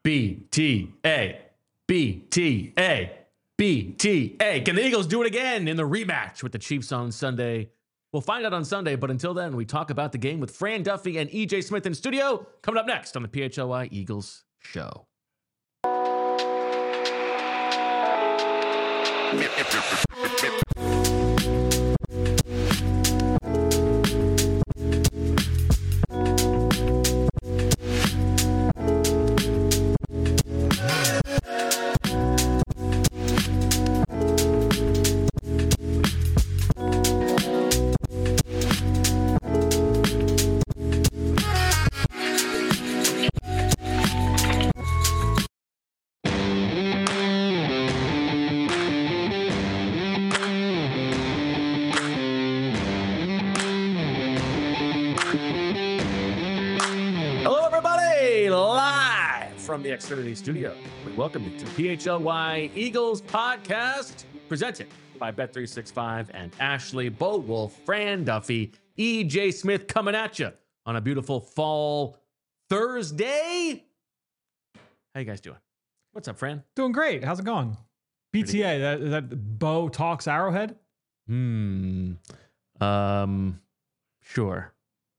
BTA. BTA. BTA. Can the Eagles do it again in the rematch with the Chiefs on Sunday? We'll find out on Sunday, but until then, we talk about the game with Fran Duffy and EJ Smith in studio. Coming up next on the PHLY Eagles Show. From the Xfinity studio, we welcome you to PHLY Eagles podcast, presented by Bet365 and Ashley Bowolf, Fran Duffy, EJ Smith coming at you on a beautiful fall Thursday. How you guys doing? What's up, Fran? Doing great. How's it going? PTA, that Bo talks Arrowhead? Sure.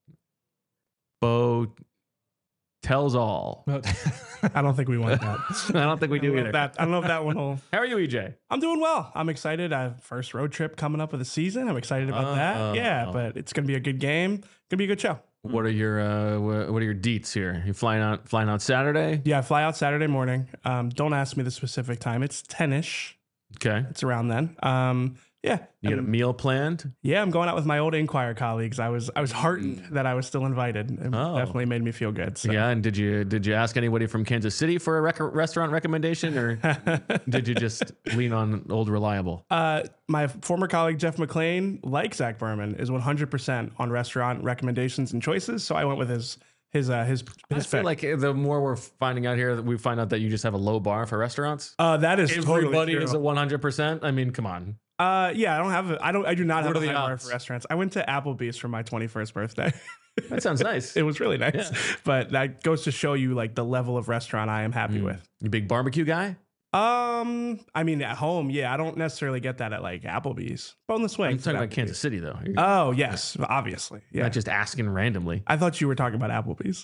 Bo tells all. I don't think we want that. I don't think we do either. I don't know if that one will. How are you, EJ? I'm doing well. I'm excited. I have first road trip coming up of the season. I'm excited about that. Yeah, but it's gonna be a good game. Gonna be a good show. What are your deets here? You flying out Saturday? Yeah, I fly out Saturday morning. Don't ask me the specific time. It's 10ish. Okay. It's around then. Yeah. You got a meal planned? Yeah, I'm going out with my old Inquirer colleagues. I was heartened that I was still invited. It definitely made me feel good. So. Yeah, and did you ask anybody from Kansas City for a restaurant recommendation, or did you just lean on old reliable? My former colleague Jeff McClain, like Zach Berman, is 100% on restaurant recommendations and choices. So I went with his I feel like the more we're finding out here, we find out that you just have a low bar for restaurants. That is everybody totally is at 100%. I mean, come on. Yeah, I do not have a high bar odds? for restaurants. I went to Applebee's for my 21st birthday. That sounds nice. It was really nice. Yeah. But that goes to show you like the level of restaurant I am happy with. You big barbecue guy? I mean, at home, yeah, I don't necessarily get that at like Applebe's. Boneless wings. I'm talking about Kansas City though. Oh, yes, obviously. Yeah. Not just asking randomly. I thought you were talking about Applebe's.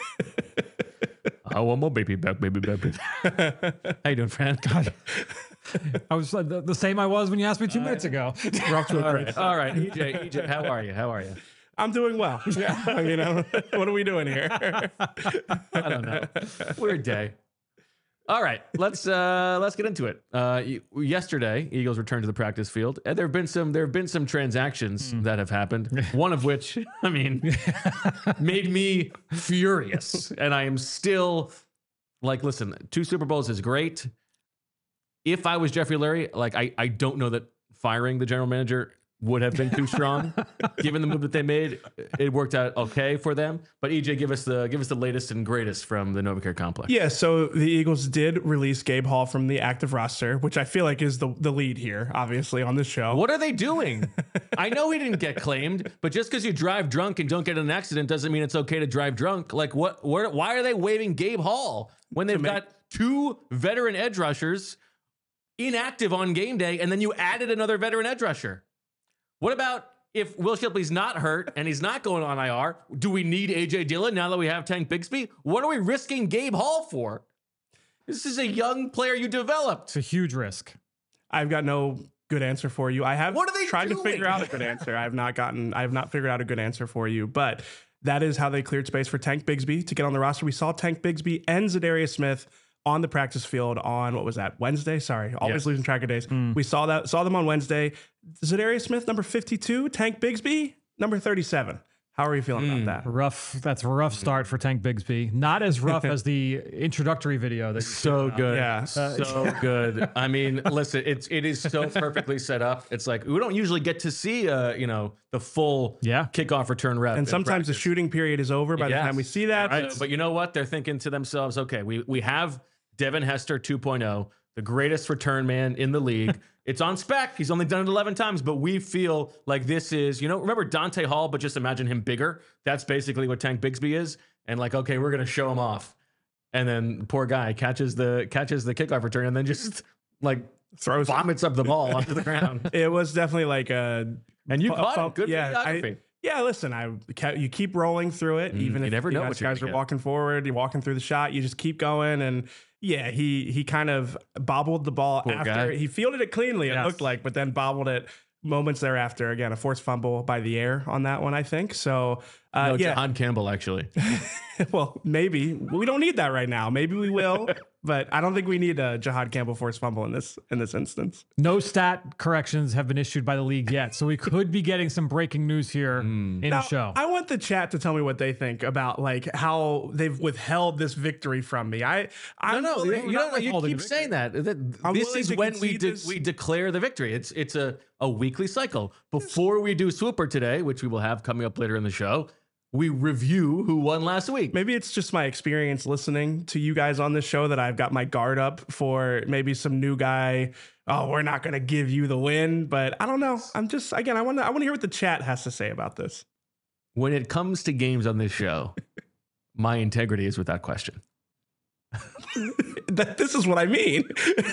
I want my baby back, baby back. How you doing, Fran? God. I was the same I was when you asked me 2 minutes ago. We're off to a great start. All right, EJ, how are you? I'm doing well. Yeah. I mean, what are we doing here? I don't know. Weird day. All right, let's get into it. Yesterday, Eagles returned to the practice field, and there have been some transactions that have happened. One of which, I mean, made me furious, and I am still like, listen, 2 Super Bowls is great. If I was Jeffrey Lurie, like I don't know that firing the general manager would have been too strong, given the move that they made. It worked out okay for them. But EJ, give us the latest and greatest from the NovaCare complex. Yeah, so the Eagles did release Gabe Hall from the active roster, which I feel like is the lead here, obviously, on this show. What are they doing? I know he didn't get claimed, but just because you drive drunk and don't get in an accident doesn't mean it's okay to drive drunk. Like, why are they waiving Gabe Hall when they've got 2 veteran edge rushers inactive on game day, and then you added another veteran edge rusher? What about if Will Shipley's not hurt and he's not going on IR? Do we need A.J. Dillon now that we have Tank Bigsby? What are we risking Gabe Hall for? This is a young player you developed. It's a huge risk. I've got no good answer for you. I have What are they tried doing? to figure out a good answer. I have not figured out a good answer for you, but that is how they cleared space for Tank Bigsby to get on the roster. We saw Tank Bigsby and Zadarius Smith on the practice field on, what was that, Wednesday? Sorry, always losing track of days. We saw them on Wednesday. Zadarius Smith, number 52. Tank Bigsby, number 37. How are you feeling about that? Rough. That's a rough start for Tank Bigsby. Not as rough as the introductory video. That So good. Yeah. So good. I mean, listen, it is so perfectly set up. It's like, we don't usually get to see, the full kickoff return rep. And sometimes the shooting period is over by the time we see that. Right. But you know what? They're thinking to themselves, okay, we have Devin Hester 2.0, the greatest return man in the league. It's on spec. He's only done it 11 times, but we feel like this is, remember Dante Hall, but just imagine him bigger. That's basically what Tank Bigsby is. And like, okay, we're going to show him off. and then poor guy catches the kickoff return and then just like Throws vomits up the ball onto the ground. It was definitely like a. And you caught it. Good yeah, videography. Yeah, listen, you keep rolling through it, even you if never know what you're guys gonna are get. walking forward, you're walking through the shot, you just keep going. And yeah, he kind of bobbled the ball Poor after guy. he fielded it cleanly, it Yes. looked like, but then bobbled it moments thereafter. Again, a forced fumble by the air on that one, I think. So No, yeah, Jahan Campbell actually. well, maybe we don't need that right now. Maybe we will, but I don't think we need a Jahad Campbell forced fumble in this instance. No stat corrections have been issued by the league yet, so we could be getting some breaking news here in Now, the show. I want the chat to tell me what they think about like how they've withheld this victory from me. I'm No, willing- you don't. You withholding keep the saying that. I'm This willing is to when we concede this. we declare the victory. It's a weekly cycle. Before we do Swooper today, which we will have coming up later in the show, we review who won last week. Maybe it's just my experience listening to you guys on this show that I've got my guard up for maybe some new guy. Oh, we're not going to give you the win, but I don't know. I'm just again, I want to hear what the chat has to say about this. When it comes to games on this show, my integrity is without question. This is what I mean.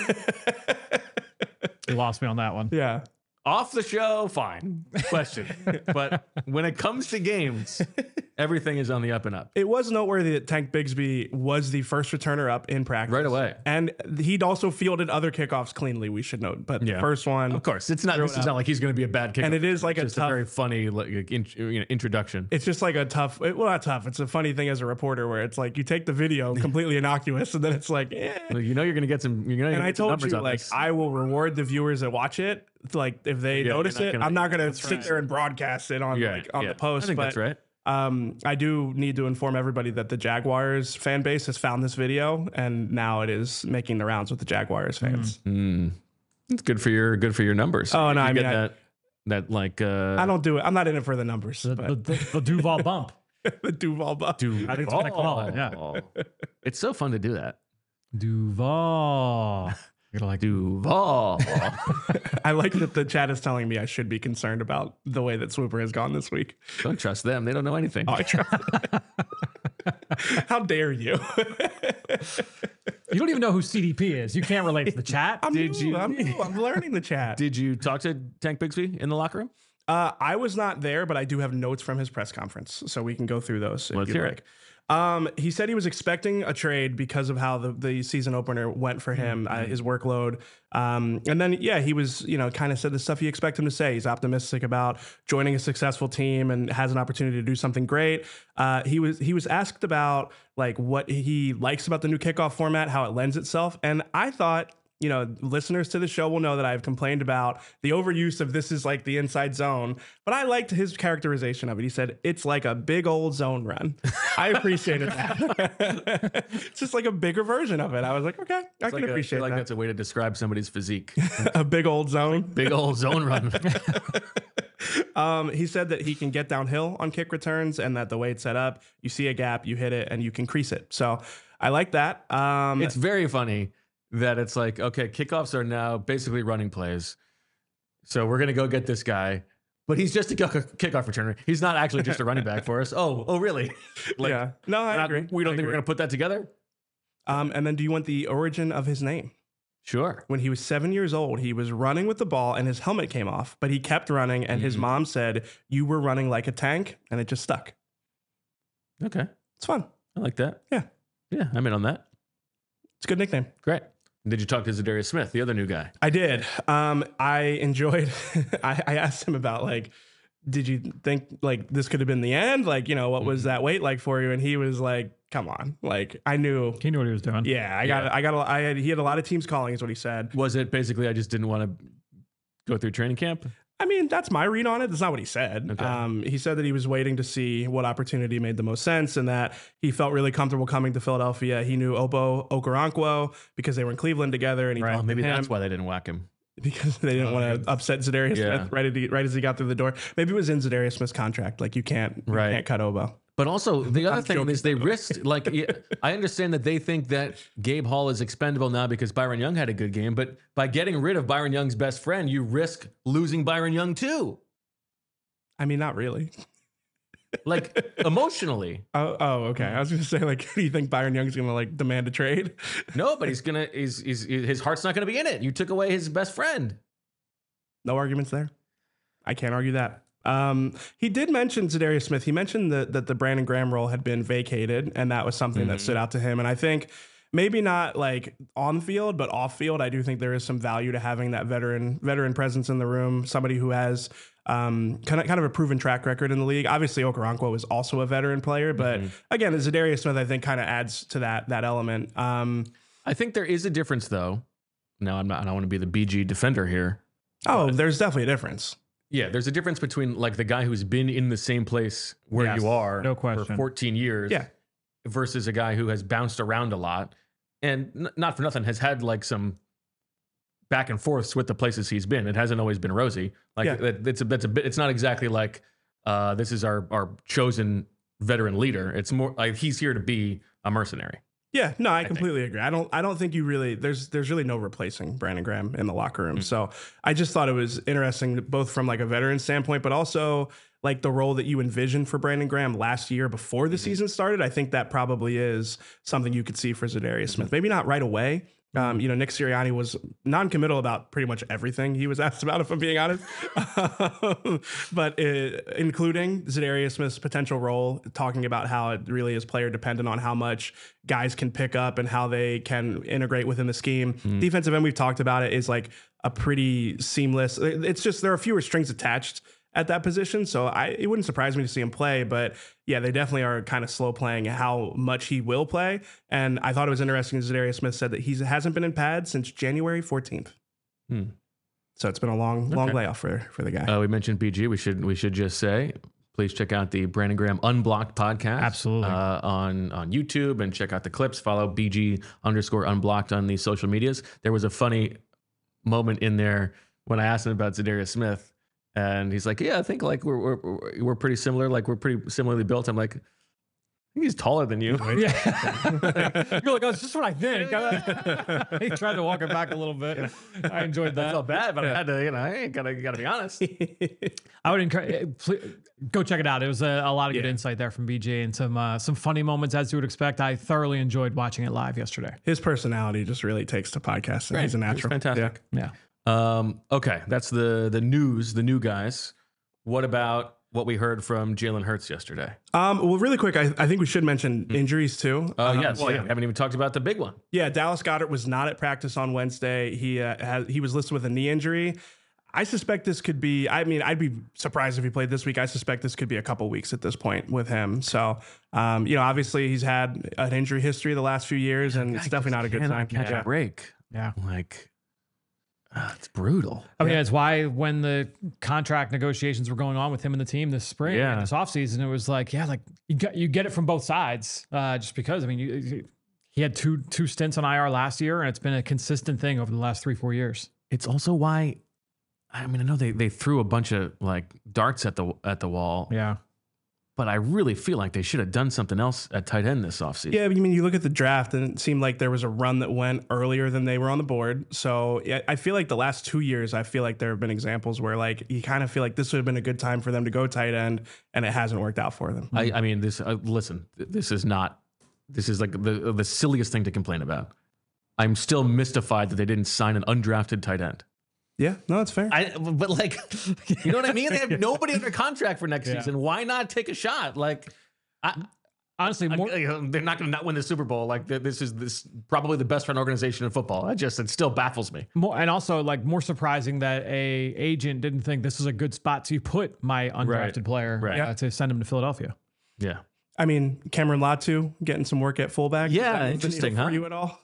You lost me on that one. Yeah. Off the show, fine. Question. But when it comes to games, everything is on the up and up. It was noteworthy that Tank Bigsby was the first returner up in practice. Right away. And he'd also fielded other kickoffs cleanly, we should note. But the Yeah. first one, Of course, it's not. This is not like he's going to be a bad kicker. and it is like It's a just a tough, very funny introduction. it's just like a tough, well, not tough. It's a funny thing as a reporter where it's like you take the video completely innocuous and then it's like, eh. You know you're going to get some. You're going to And I get some told numbers you, on like, this. I will reward the viewers that watch it. Like, if they Yeah, notice you're not it, gonna- I'm not going to that's sit right. there and broadcast it on the post. I think but that's right. I do need to inform everybody that the Jaguars fan base has found this video and now it is making the rounds with the Jaguars fans. It's good for your numbers. Oh, no, You I get mean, that like I don't do it. I'm not in it for the numbers. The, But the Duval bump. the Duval buff. I think it's what I call it, yeah. It's so fun to do that. Duval. You're gonna like Duval. I like that the chat is telling me I should be concerned about the way that Swooper has gone this week. Don't trust them. They don't know anything. Oh, I try. How dare you? You don't even know who CDP is. You can't relate to the chat. I'm new. I'm learning the chat. Did you talk to Tank Bigsby in the locker room? I was not there, but I do have notes from his press conference, so we can go through those. Let's if you'd hear like. He said he was expecting a trade because of how the season opener went for him, his workload. And then, yeah, he was, kind of said the stuff you expect him to say. He's optimistic about joining a successful team and has an opportunity to do something great. He was asked about like what he likes about the new kickoff format, how it lends itself. And I thought, listeners to the show will know that I've complained about the overuse of this is like the inside zone, but I liked his characterization of it. He said, it's like a big old zone run. I appreciated that. It's just like a bigger version of it. I was like, okay, I can appreciate like that. that's a way to describe somebody's physique. A big old zone. Big old zone run. He said that he can get downhill on kick returns and that the way it's set up, you see a gap, you hit it, and you can crease it. So I like that. It's very funny that it's like, okay, kickoffs are now basically running plays. So we're going to go get this guy, but he's just a kickoff returner. He's not actually just a running back for us. Oh, really? Like, yeah. No, I agree. We don't I think we're agree. going to put that together? And then do you want the origin of his name? Sure. When he was 7 years old, he was running with the ball and his helmet came off, but he kept running and his mom said, you were running like a tank, and it just stuck. Okay. It's fun. I like that. Yeah. Yeah, I'm in on that. It's a good nickname. Great. Did you talk to Zadarius Smith, the other new guy? I did. I enjoyed, I asked him about like, did you think like this could have been the end? Like, what was that wait like for you? And he was like, come on. Like I knew. He knew what he was doing. Yeah, he had a lot of teams calling is what he said. Was it basically I just didn't want to go through training camp? I mean, that's my read on it. That's not what he said. Okay. He said that he was waiting to see what opportunity made the most sense and that he felt really comfortable coming to Philadelphia. He knew Obo Okoronkwo because they were in Cleveland together and he talked Maybe to him that's why they didn't whack him. because they didn't want to upset Zadarius Yeah. Smith right as he got through the door. Maybe it was in Zadarius Smith's contract. Like you can't cut Obo. But also, the other I'm thing joking, is they risked, like, I understand that they think that Gabe Hall is expendable now because Byron Young had a good game, but by getting rid of Byron Young's best friend, you risk losing Byron Young too. I mean, not really. like emotionally. Oh, okay. I was going to say, like, do you think Byron Young's going to like demand a trade? No, but his heart's not going to be in it. You took away his best friend. No arguments there. I can't argue that. He did mention Zadarius Smith. He mentioned that the Brandon Graham role had been vacated, and that was something that stood out to him. And I think maybe not like on field, but off field, I do think there is some value to having that veteran presence in the room. Somebody who has kind of a proven track record in the league. Obviously, Okoronkwo is also a veteran player, but again, Zadarius Smith, I think, kind of adds to that element. I think there is a difference, though. No, I don't want to be the BG defender here. Oh, there's definitely a difference. Yeah, there's a difference between like the guy who's been in the same place where Yes, you are no question. for 14 years Yeah. versus a guy who has bounced around a lot and not for nothing has had like some back and forths with the places he's been. It hasn't always been rosy. Like that's a bit. It's not exactly like this is our chosen veteran leader. It's more like he's here to be a mercenary. Yeah, no, I completely agree. I don't think you really there's really no replacing Brandon Graham in the locker room. So I just thought it was interesting both from like a veteran standpoint, but also like the role that you envisioned for Brandon Graham last year before the season started. I think that probably is something you could see for Zadarius Smith. Maybe not right away. Nick Sirianni was non-committal about pretty much everything he was asked about, if I'm being honest. But including Zadarius Smith's potential role, talking about how it really is player dependent on how much guys can pick up and how they can integrate within the scheme. Defensive end, we've talked about it, is like a pretty seamless. It's just there are fewer strings attached at that position. So it wouldn't surprise me to see him play, but yeah, they definitely are kind of slow playing how much he will play. And I thought it was interesting. Zadarius Smith said that he hasn't been in pads since January 14th. So it's been a long layoff for the guy. We mentioned BG. We should just say, please check out the Brandon Graham Unblocked podcast. Absolutely. On YouTube, and check out the clips. Follow BG_Unblocked on the social medias. There was a funny moment in there when I asked him about Zadarius Smith. And he's like, yeah, I think like we're pretty similar. Like we're pretty similarly built. I'm like, I think he's taller than you. Yeah. You're like, oh, it's just what I think. He tried to walk it back a little bit. I enjoyed that. I felt bad, but I had to, I ain't gotta be honest. I would encourage, go check it out. It was a lot of good insight there from BJ and some funny moments, as you would expect. I thoroughly enjoyed watching it live yesterday. His personality just really takes to podcasting. Right. He's a natural. He's fantastic. Yeah. Okay, that's the news, the new guys. What about what we heard from Jalen Hurts yesterday? Well, really quick, I think we should mention injuries too. Yes, we haven't even talked about the big one. Yeah, Dallas Goedert was not at practice on Wednesday. He was listed with a knee injury. I suspect this could be, I'd be surprised if he played this week. I suspect this could be a couple weeks at this point with him. So, obviously he's had an injury history the last few years, and it's definitely not a good time. Catch a break. Yeah. Like, it's brutal. I mean, it's why when the contract negotiations were going on with him and the team this spring, this offseason, it was like, you get it from both sides. Just because, he had two stints on IR last year, and it's been a consistent thing over the last 3-4 years. It's also why, I know they threw a bunch of like darts at the wall. Yeah. But I really feel like they should have done something else at tight end this offseason. Yeah, you look at the draft, and it seemed like there was a run that went earlier than they were on the board. So I feel like the last 2 years, I feel like there have been examples where like you kind of feel like this would have been a good time for them to go tight end, and it hasn't worked out for them. Listen, this is like the silliest thing to complain about. I'm still mystified that they didn't sign an undrafted tight end. Yeah, no, it's fair. But like, you know what I mean? They have nobody under contract for next season. Why not take a shot? Like, honestly, they're not going to not win the Super Bowl. Like, this is probably the best run organization in football. It still baffles me. More surprising that a agent didn't think this is a good spot to put my undrafted player to send him to Philadelphia. Yeah. Cameron Latu getting some work at fullback. Yeah, interesting, huh? For you at all?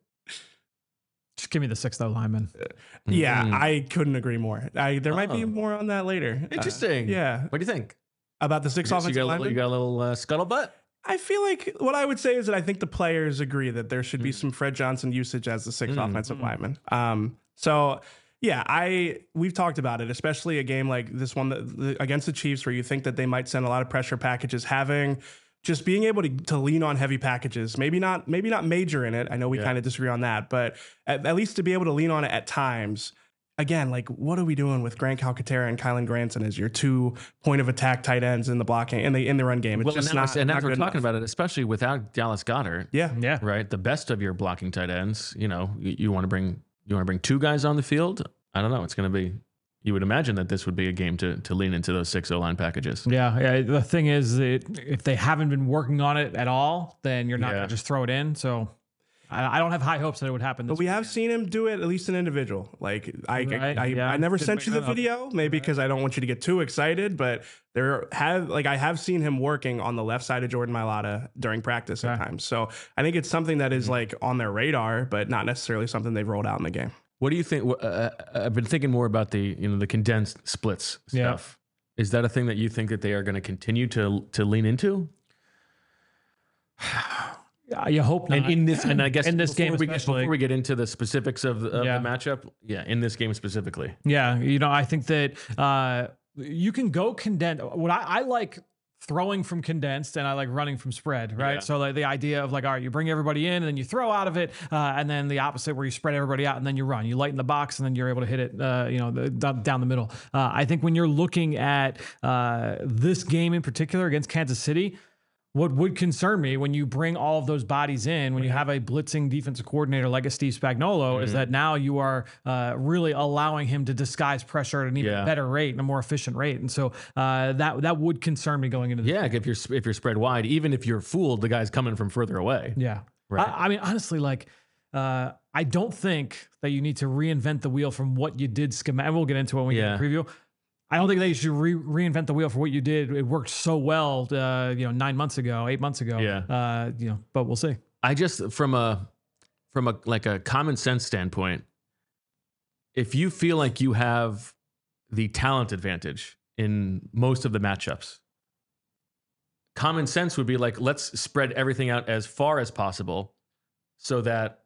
Just give me the 6th lineman. Yeah, I couldn't agree more. There might be more on that later. Interesting. Yeah. What do you think? About the 6 offensive linemen? You got a little scuttlebutt? I feel like what I would say is that I think the players agree that there should be some Fred Johnson usage as the 6th offensive lineman. So yeah, we've talked about it, especially a game like this one against the Chiefs, where you think that they might send a lot of pressure packages, just being able to lean on heavy packages, maybe not major in it. I know we kind of disagree on that, but at least to be able to lean on it at times again, like, what are we doing with Grant Calcaterra and Kylan Granson as your 2 point of attack tight ends in the blocking in the run game? It's just not. And not we're good talking enough. about it, especially without Dallas Goedert. Yeah. Right. The best of your blocking tight ends. You want to bring 2 guys on the field. I don't know. It's going to be. You would imagine that this would be a game to lean into those 6 O-line packages. Yeah. The thing is that if they haven't been working on it at all, then you're not going to just throw it in. So I don't have high hopes that it would happen. But we have seen him do it, at least an individual. Like I never sent you the video, maybe because I don't want you to get too excited. But I have seen him working on the left side of Jordan Mailata during practice at times. So I think it's something that is like on their radar, but not necessarily something they've rolled out in the game. What do you think? I've been thinking more about the condensed splits stuff. Yeah. Is that a thing that you think that they are going to continue to lean into? You hope not. And I guess in this game, before we get into the specifics of the matchup, in this game specifically. Yeah, I think that you can go condensed. What I like throwing from condensed, and I like running from spread, right? Yeah. So like the idea of like, all right, you bring everybody in and then you throw out of it, and then the opposite where you spread everybody out and then you run. You lighten the box and then you're able to hit it, down the middle. I think when you're looking at this game in particular against Kansas City, what would concern me when you bring all of those bodies in, when you have a blitzing defensive coordinator like a Steve Spagnuolo, is that now you are really allowing him to disguise pressure at an even better rate and a more efficient rate. And so that would concern me going into this game. If you're spread wide, even if you're fooled, the guy's coming from further away. Yeah. Right. I mean, honestly, I don't think that you need to reinvent the wheel from what you did schematic. We'll get into it when we get the preview. I don't think they should reinvent the wheel for what you did. It worked so well, 9 months ago, 8 months ago. Yeah. But we'll see. I just from a common sense standpoint, if you feel like you have the talent advantage in most of the matchups, common sense would be like, let's spread everything out as far as possible so that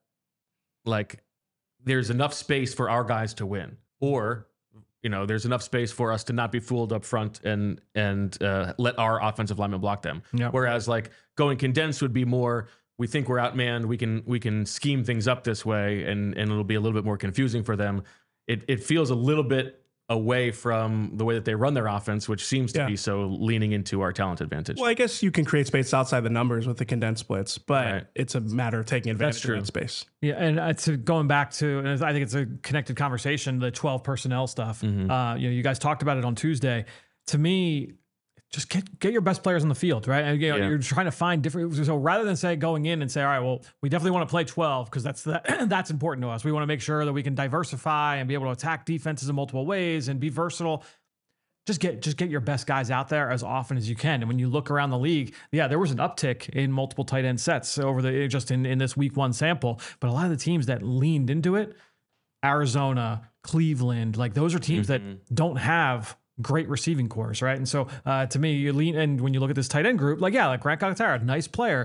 there's enough space for our guys to win, or there's enough space for us to not be fooled up front and let our offensive linemen block them. Yep. Whereas going condensed would be more, we think we're outmanned, we can scheme things up this way and it'll be a little bit more confusing for them. It feels a little bit away from the way that they run their offense, which seems to be so leaning into our talent advantage. Well, I guess you can create space outside the numbers with the condensed splits, but it's a matter of taking advantage of that space. Yeah, and going back to, and I think it's a connected conversation, the 12 personnel stuff. Mm-hmm. You guys talked about it on Tuesday. To me, just get your best players on the field, right? And you're trying to find different. So rather than going in and say, all right, well, we definitely want to play 12 because that's important to us. We want to make sure that we can diversify and be able to attack defenses in multiple ways and be versatile. Just get your best guys out there as often as you can. And when you look around the league, there was an uptick in multiple tight end sets over in this week 1 sample. But a lot of the teams that leaned into it, Arizona, Cleveland, those are teams that don't have great receiving cores, right? And so to me, you lean, and when you look at this tight end group, Grant Calcaterra, nice player.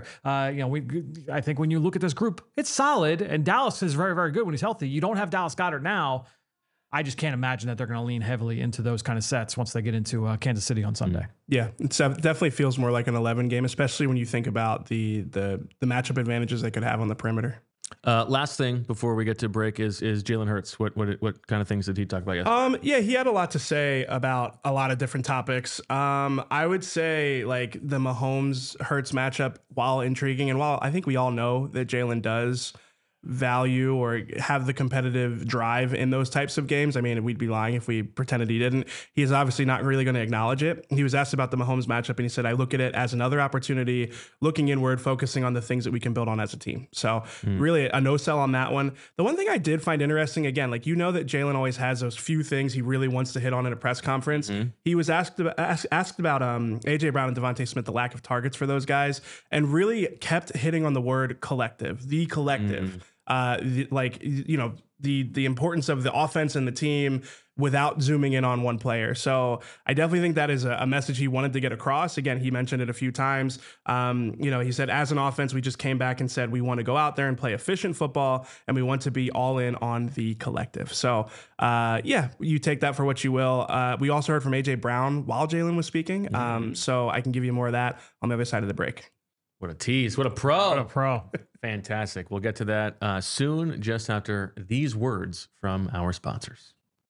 I think when you look at this group, it's solid, and Dallas is very, very good when he's healthy. You don't have Dallas Goedert now. I just can't imagine that they're going to lean heavily into those kind of sets once they get into Kansas City on Sunday. Yeah, it definitely feels more like an 11 game, especially when you think about the matchup advantages they could have on the perimeter. Last thing before we get to break is Jalen Hurts. What kind of things did he talk about yesterday? He had a lot to say about a lot of different topics. I would say the Mahomes Hurts matchup, while intriguing and while I think we all know that Jalen does value or have the competitive drive in those types of games. I mean, we'd be lying if we pretended he didn't. He is obviously not really going to acknowledge it. He was asked about the Mahomes matchup and he said, I look at it as another opportunity, looking inward, focusing on the things that we can build on as a team. So really a no sell on that one. The one thing I did find interesting, again, that Jalen always has those few things he really wants to hit on in a press conference. He was asked about AJ Brown and Devontae Smith, the lack of targets for those guys, and really kept hitting on the word collective, the collective. The importance of the offense and the team without zooming in on one player. So I definitely think that is a message he wanted to get across. Again, he mentioned it a few times. He said, as an offense, we just came back and said, we want to go out there and play efficient football and we want to be all in on the collective. So you take that for what you will. We also heard from AJ Brown while Jalen was speaking. So I can give you more of that on the other side of the break. What a tease. What a pro. What a pro. Fantastic. We'll get to that soon, just after these words from our sponsors.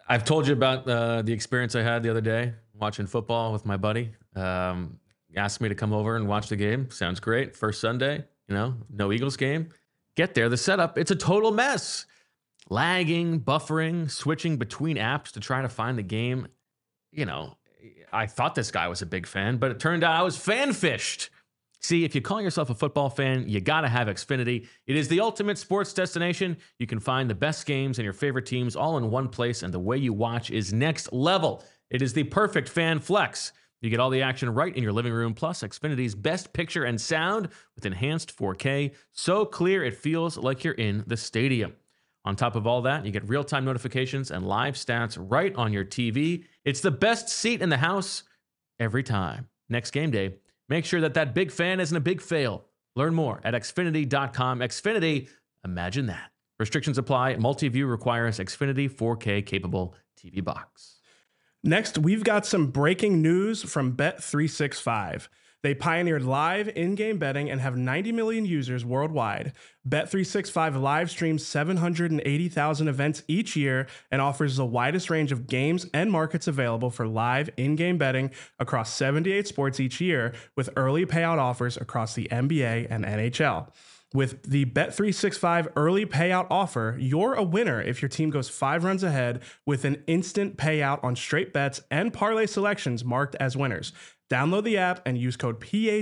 I've told you about the experience I had the other day watching football with my buddy. Asked me to come over and watch the game. Sounds great. First Sunday, no Eagles game. Get there, the setup, it's a total mess. Lagging, buffering, switching between apps to try to find the game. I thought this guy was a big fan, but it turned out I was fan-fished. See, if you call yourself a football fan, you gotta have Xfinity. It is the ultimate sports destination. You can find the best games and your favorite teams all in one place, and the way you watch is next level. It is the perfect fan flex. You get all the action right in your living room, plus Xfinity's best picture and sound with enhanced 4K, so clear it feels like you're in the stadium. On top of all that, you get real-time notifications and live stats right on your TV. It's the best seat in the house every time. Next game day, make sure that big fan isn't a big fail. Learn more at Xfinity.com. Xfinity, imagine that. Restrictions apply. Multi-view requires Xfinity 4K capable TV box. Next, we've got some breaking news from Bet365. They pioneered live in-game betting and have 90 million users worldwide. Bet365 live streams 780,000 events each year and offers the widest range of games and markets available for live in-game betting across 78 sports each year, with early payout offers across the NBA and NHL. With the Bet365 early payout offer, you're a winner if your team goes 5 runs ahead with an instant payout on straight bets and parlay selections marked as winners. Download the app and use code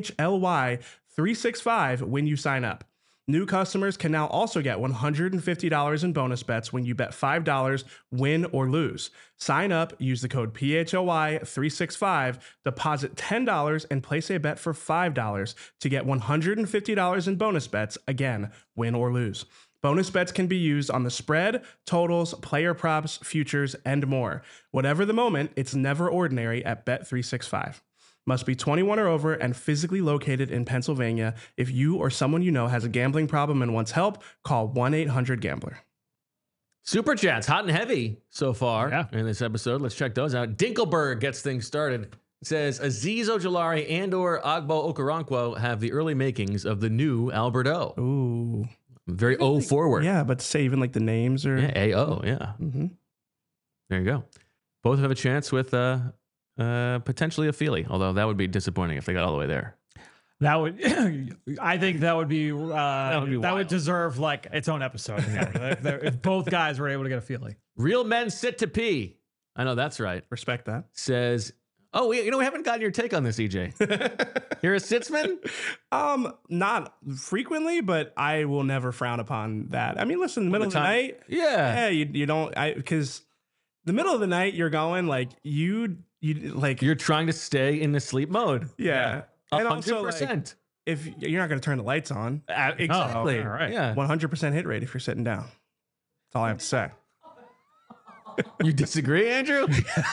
PHLY365 when you sign up. New customers can now also get $150 in bonus bets when you bet $5, win or lose. Sign up, use the code PHLY365, deposit $10, and place a bet for $5 to get $150 in bonus bets, again, win or lose. Bonus bets can be used on the spread, totals, player props, futures, and more. Whatever the moment, it's never ordinary at Bet365. Must be 21 or over and physically located in Pennsylvania. If you or someone you know has a gambling problem and wants help, call 1-800-GAMBLER. Super chats, hot and heavy so far in this episode. Let's check those out. Dinkelberg gets things started. It says, Azeez Ojulari and or Agbo Okoronkwo have the early makings of the new Alberto. Ooh. Very O forward. Yeah, but say even like the names or... Yeah, AO, yeah. Mm-hmm. There you go. Both have a chance with... potentially a Feely, although that would be disappointing if they got all the way there. That would, I think that would deserve like its own episode. If both guys were able to get a Feely. Real men sit to pee. I know that's right. Respect that. Says, we haven't gotten your take on this, EJ. You're a Sitzman? Not frequently, but I will never frown upon that. I mean, listen, in the middle of the night, you don't, because the middle of the night, you're going like you're trying to stay in the sleep mode. Yeah. And 100%. also, like, if you're not going to turn the lights on. Exactly. All right. Yeah. 100% hit rate if you're sitting down. That's all I have to say. You disagree, Andrew?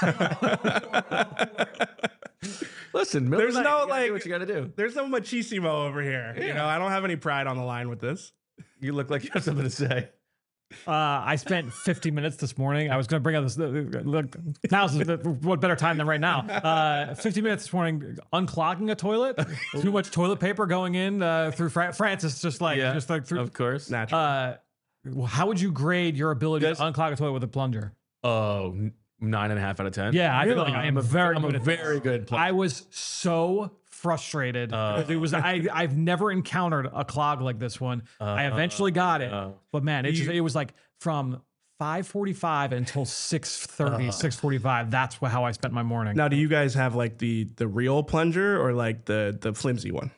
Listen, there's no do what you got to do. There's no machismo over here. Yeah. I don't have any pride on the line with this. You look like you have something to say. I spent 50 minutes this morning. I was going to bring up this. Look, now's what better time than right now? 50 minutes this morning, unclogging a toilet. Too much toilet paper going in through Francis. Just through. Of course, naturally. How would you grade your ability to unclog a toilet with a plunger? Oh, 9.5 out of 10. Yeah, I feel like I'm a very good plunger. I was so frustrated. It was I've never encountered a clog like this one. I eventually got it, but man, it was like from 5:45 until 6:30, 6:45. That's how I spent my morning. Now, do you guys have like the real plunger or like the flimsy one?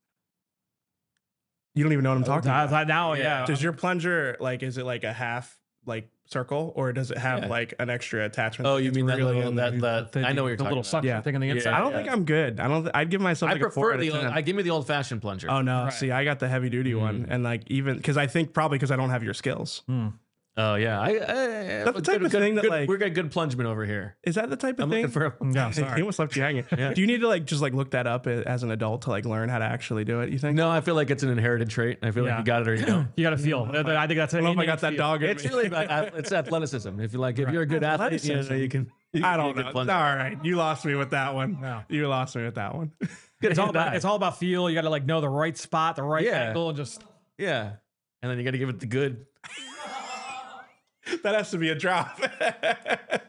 You don't even know what I'm talking about. Now, yeah. Does your plunger is it like a half like circle, or does it have like an extra attachment? Oh, you mean that little that I know what you're talking little about. suction thing on the inside. I don't think I'm good. I'd give myself. I prefer I give me the old fashioned plunger. Oh no, see, I got the heavy duty one, and like even because I think probably because I don't have your skills. Oh yeah, that's the type of thing that like we're got good plungement over here. Is that the type of thing? No, sorry. He almost left you hanging. Yeah. Do you need to just look that up as an adult to learn how to actually do it? You think? No, I feel like it's an inherited trait. I feel like you got it or you don't. You got to feel. I think that's. I don't know if I got that dog. It's really about it's athleticism. If you're a good athlete, you can. I don't know. All right, you lost me with that one. No. You lost me with that one. It's all about feel. You got to know the right spot, the right angle, and just and then you got to give it the good. That has to be a drop.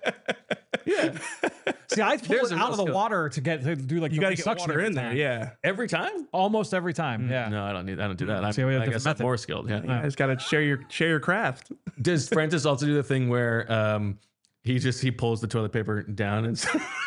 Yeah. See, I pull There's it a out real of the skill. water to do like You the got to get suction water every in there. time. Yeah. Every time? Almost every time. Yeah. No, I don't do that. See, we have I guess different I'm method. more skilled. Yeah. You guys got to share your craft. Does Francis also do the thing where he pulls the toilet paper down and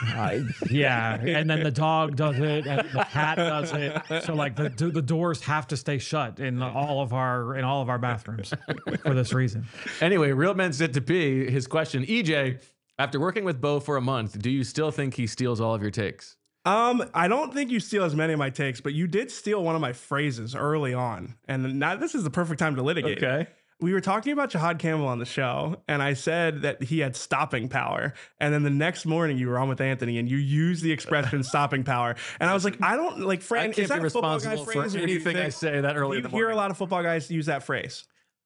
Yeah, and then the dog does it, and the cat does it. So like the doors have to stay shut in all of our bathrooms for this reason. Anyway, Real Men Sit to Pee, his question, EJ, after working with Bo for a month, do you still think he steals all of your takes? I don't think you steal as many of my takes, but you did steal one of my phrases early on, and now this is the perfect time to litigate. Okay. We were talking about Jahad Campbell on the show, and I said that he had stopping power. And then the next morning, you were on with Anthony, and you used the expression "stopping power." And I was like, I don't like. Fran, I is can't that be a football guy responsible phrase? for or do you anything I think- say that early in Do the you hear morning. a lot of football guys use that phrase?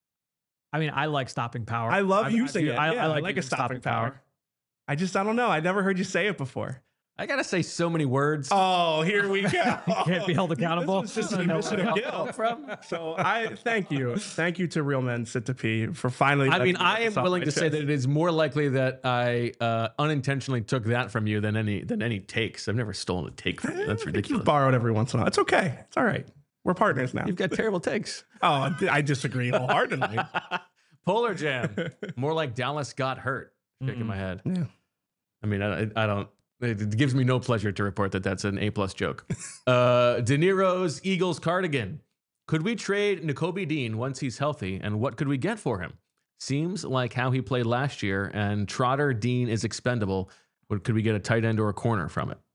I mean, I like stopping power. I love using it. I Yeah, I like like a using stopping power. I don't know. I never heard you say it before. I gotta say so many words. Oh, here we go. Can't be held accountable. This was just an admission of guilt. So I thank you to Real Men Sit to Pee for finally. I mean, letting me I get am this off willing my to say chest. that it is more likely that I unintentionally took that from you than any takes. I've never stolen a take from you. That's You ridiculous. borrowed every once in a while. It's okay. It's all right. We're partners now. You've got terrible takes. Oh, I disagree wholeheartedly. Polar Jam, more like Dallas got hurt. Shaking my head. Yeah. I mean, I don't. It gives me no pleasure to report that that's an A+ joke. De Niro's Eagles cardigan. Could we trade Nakobe Dean once he's healthy, and what could we get for him? Seems like how he played last year, and Trotter Dean is expendable. Could we get a tight end or a corner from it?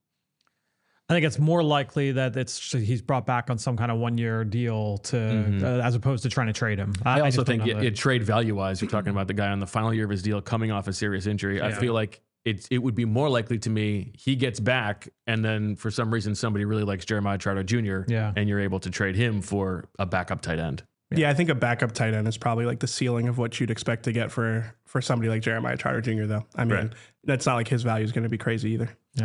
I think it's more likely that he's brought back on some kind of 1-year deal to as opposed to trying to trade him. I also just don't think know that. trade value wise, you're talking about the guy on the final year of his deal coming off a serious injury. I feel like it would be more likely to me he gets back, and then for some reason somebody really likes Jeremiah Trotter Jr. And you're able to trade him for a backup tight end. Yeah, I think a backup tight end is probably like the ceiling of what you'd expect to get for somebody like Jeremiah Trotter Jr. Though. I mean, that's not like his value is going to be crazy either. Yeah.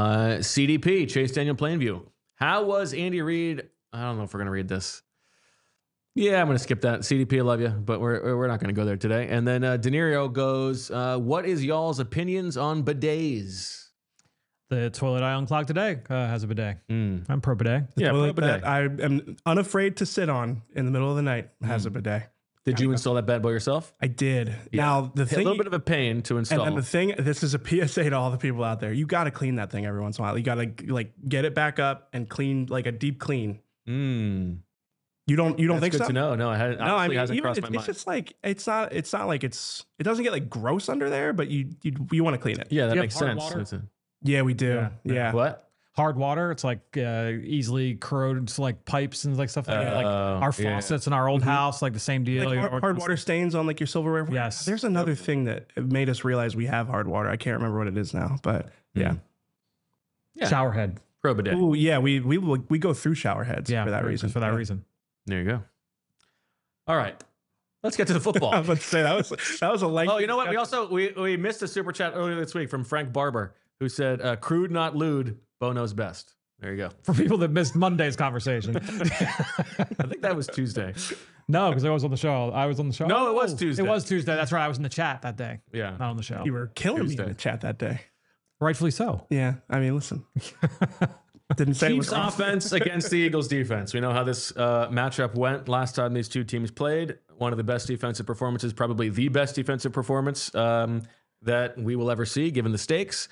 CDP, Chase Daniel Plainview. How was Andy Reid? I don't know if we're going to read this. Yeah, I'm going to skip that. CDP, I love you, but we're not going to go there today. And then De Niro goes, what is y'all's opinions on bidets? The toilet I unclogged today has a bidet. I'm pro bidet. Yeah, Toilet pro bidet. that I am unafraid to sit on in the middle of the night has a bidet. Did you install that bad boy yourself? I did. Now the A thing, little bit of a pain to install. and then the thing, this is a PSA to all the people out there. You got to clean that thing every once in a while. You got to like get it back up and clean, like a deep clean. You don't That's think good so? to know. No, I hadn't. No, I mean, hasn't even crossed it's my mind. just like it's not like it doesn't get like gross under there, but you want to clean it. Yeah, that Do you makes have hard sense. water? It's a- Yeah, we do. Yeah. What? Hard water, it's like easily corroded to like pipes and like stuff like that. Like our faucets in our old house, like the same deal. Like hard water stains on like your silverware. Yes. There's another thing that made us realize we have hard water. I can't remember what it is now, but yeah. Shower head. Pro bidet. Ooh, yeah. We go through shower heads Yeah, for that reason. For that reason. There you go. All right. Let's get to the football. I was about to say that was a lengthy. Oh, you know what? We also we missed a super chat earlier this week from Frank Barber, who said, "Crude, not lewd. Bo knows best." There you go. For people that missed Monday's conversation. I think that was Tuesday. No, because I was on the show. I was on the show. No, it was Oh, Tuesday. It was Tuesday. That's right. I was in the chat that day. Yeah. Not on the show. You were killing me Tuesday. in the chat that day. Rightfully so. Yeah. I mean, listen. Didn't say it Chiefs was offense against the Eagles defense. We know how this matchup went last time these two teams played. One of the best defensive performances, probably the best defensive performance that we will ever see, given the stakes.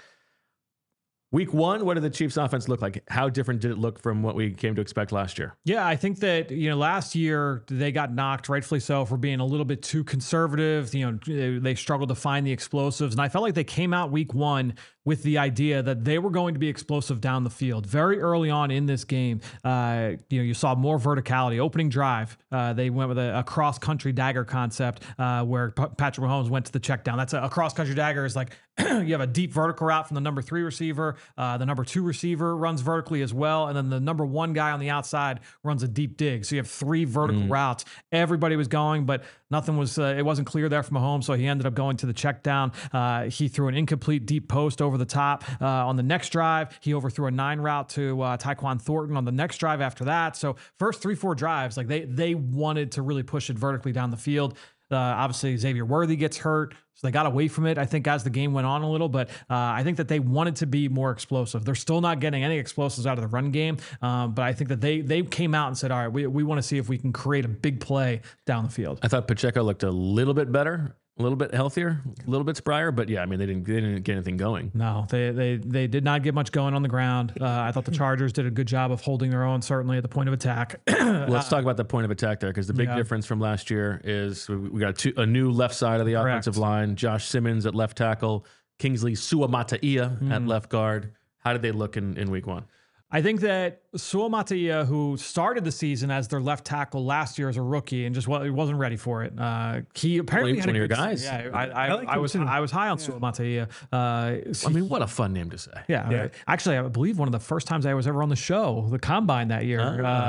Week 1, what did the Chiefs offense look like? How different did it look from what we came to expect last year? Yeah, I think that, last year they got knocked, rightfully so, for being a little bit too conservative. They struggled to find the explosives. And I felt like they came out week 1 with the idea that they were going to be explosive down the field. Very early on in this game, you saw more verticality. Opening drive, they went with a cross-country dagger concept where Patrick Mahomes went to the check down. That's a cross-country dagger is like you have a deep vertical route from the number 3 receiver. The number 2 receiver runs vertically as well. And then the number 1 guy on the outside runs a deep dig. So you have 3 vertical routes. Everybody was going, but nothing was, it wasn't clear there from Mahomes. So he ended up going to the check down. He threw an incomplete deep post over the top. On the next drive, he overthrew a 9 route to Tyquan Thornton on the next drive after that. So first 3-4 drives, like they wanted to really push it vertically down the field. Obviously, Xavier Worthy gets hurt, so they got away from it, I think, as the game went on a little. But I think that they wanted to be more explosive. They're still not getting any explosives out of the run game, but I think that they came out and said, all right, we want to see if we can create a big play down the field. I thought Pacheco looked a little bit better, a little bit healthier, a little bit sprier, but yeah, I mean, they didn't get anything going. No, they did not get much going on the ground. I thought the Chargers did a good job of holding their own, certainly at the point of attack. Let's talk about the point of attack there, because the big difference from last year is we got a new left side of the offensive line. Josh Simmons at left tackle, Kingsley Suamataia at left guard. How did they look in week 1? I think that Suamataia, who started the season as their left tackle last year as a rookie and just wasn't ready for it. He apparently had one of your guys. Yeah, I was high on Suamataia. I mean, what a fun name to say. Yeah. Actually, I believe one of the first times I was ever on the show, the Combine that year.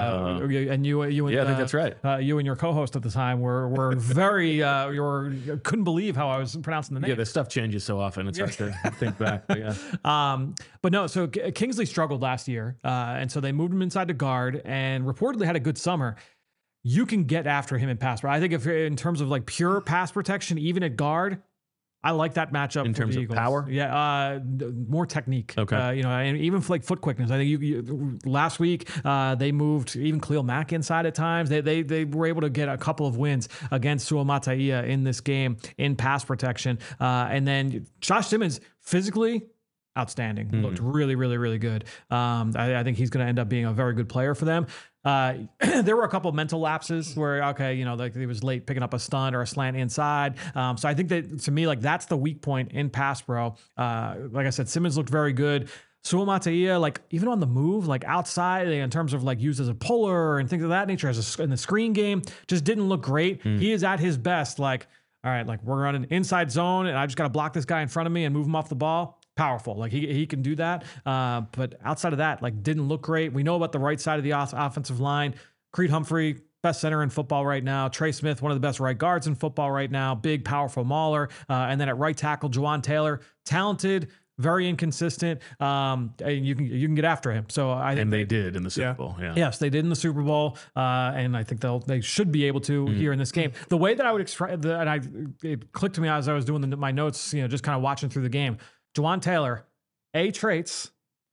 And you and I think that's right. You and your co-host at the time were very couldn't believe how I was pronouncing the name. Yeah, the stuff changes so often. It's hard to think back. But yeah. But no, so Kingsley struggled last year, and so they moved him inside to guard, and reportedly had a good summer. You can get after him in pass, but I think if in terms of like pure pass protection, even at guard, I like that matchup in terms of power. Yeah, more technique. Okay, and even for like foot quickness. I think you last week they moved even Khalil Mack inside at times. They were able to get a couple of wins against Suamataia in this game in pass protection, and then Josh Simmons physically outstanding. Looked really, really, really good. I think he's going to end up being a very good player for them. There were a couple of mental lapses where, like he was late picking up a stunt or a slant inside. So I think that to me, like that's the weak point in pass pro. Like I said, Simmons looked very good. Suamataia, like even on the move, like outside in terms of like used as a puller and things of that nature in the screen game, just didn't look great. He is at his best. Like, all right, like we're on an inside zone and I just got to block this guy in front of me and move him off the ball. Powerful. Like he can do that. But outside of that, like didn't look great. We know about the right side of the offensive line. Creed Humphrey, best center in football right now. Trey Smith, one of the best right guards in football right now. Big, powerful mauler. And then at right tackle, Juwan Taylor, talented, very inconsistent. And you can get after him. So I think they did in the Super Bowl. Yeah. Yes, they did in the Super Bowl. And I think they should be able to here in this game. The way that I would express it clicked to me as I was doing my notes, just kind of watching through the game. Juwan Taylor, A, traits,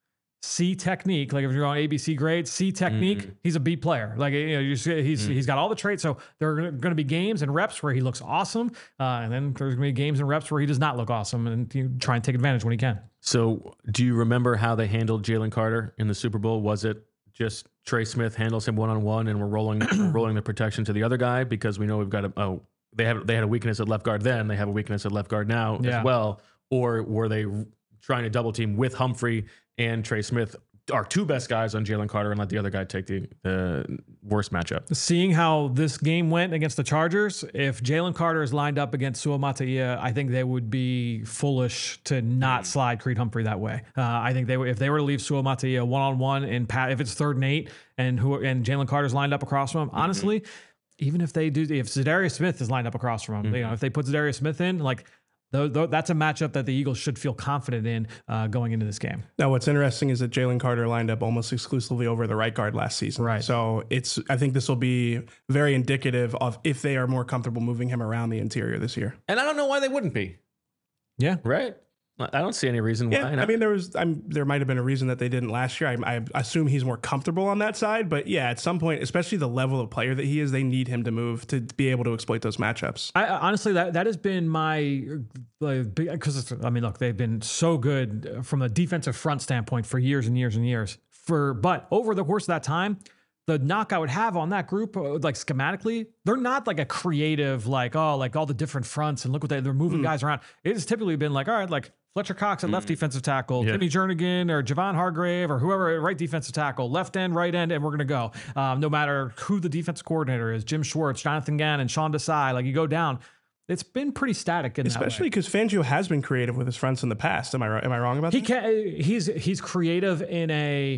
C, technique. Like if you're on ABC grades, C, technique, he's a B player. Like, he's got all the traits. So there are going to be games and reps where he looks awesome. And then there's going to be games and reps where he does not look awesome, and you try and take advantage when he can. So do you remember how they handled Jalen Carter in the Super Bowl? Was it just Trey Smith handles him one-on-one and we're rolling the protection to the other guy? Because we know we've got they had a weakness at left guard then. They have a weakness at left guard now as well. Or were they trying to double team with Humphrey and Trey Smith, our two best guys, on Jalen Carter, and let the other guy take the worst matchup? Seeing how this game went against the Chargers, if Jalen Carter is lined up against Suamataia, I think they would be foolish to not slide Creed Humphrey that way. I think if they were to leave Suamataia one-on-one and if it's 3rd and 8 and Jalen Carter's lined up across from him, honestly, even if Zadarius Smith is lined up across from him, if they put Zadarius Smith in, like, that's a matchup that the Eagles should feel confident in going into this game. Now, what's interesting is that Jalen Carter lined up almost exclusively over the right guard last season. Right. So I think this will be very indicative of if they are more comfortable moving him around the interior this year. And I don't know why they wouldn't be. Yeah. Right. I don't see any reason why. I mean, there might have been a reason that they didn't last year. I assume he's more comfortable on that side, but yeah, at some point, especially the level of player that he is, they need him to move to be able to exploit those matchups. Honestly, that has been my, because I mean, look, they've been so good from a defensive front standpoint for years and years and years. But over the course of that time, the knock I would have on that group, like schematically, they're not like a creative, like all the different fronts and look what they're moving guys around. It's typically been like, all right, like Fletcher Cox at left defensive tackle, Timmy Jernigan or Javon Hargrave or whoever at right defensive tackle, left end, right end, and we're going to go. No matter who the defensive coordinator is, Jim Schwartz, Jonathan Gannon, Sean Desai, like you go down. It's been pretty static in especially because Fangio has been creative with his fronts in the past. Am I wrong about that? He's creative in a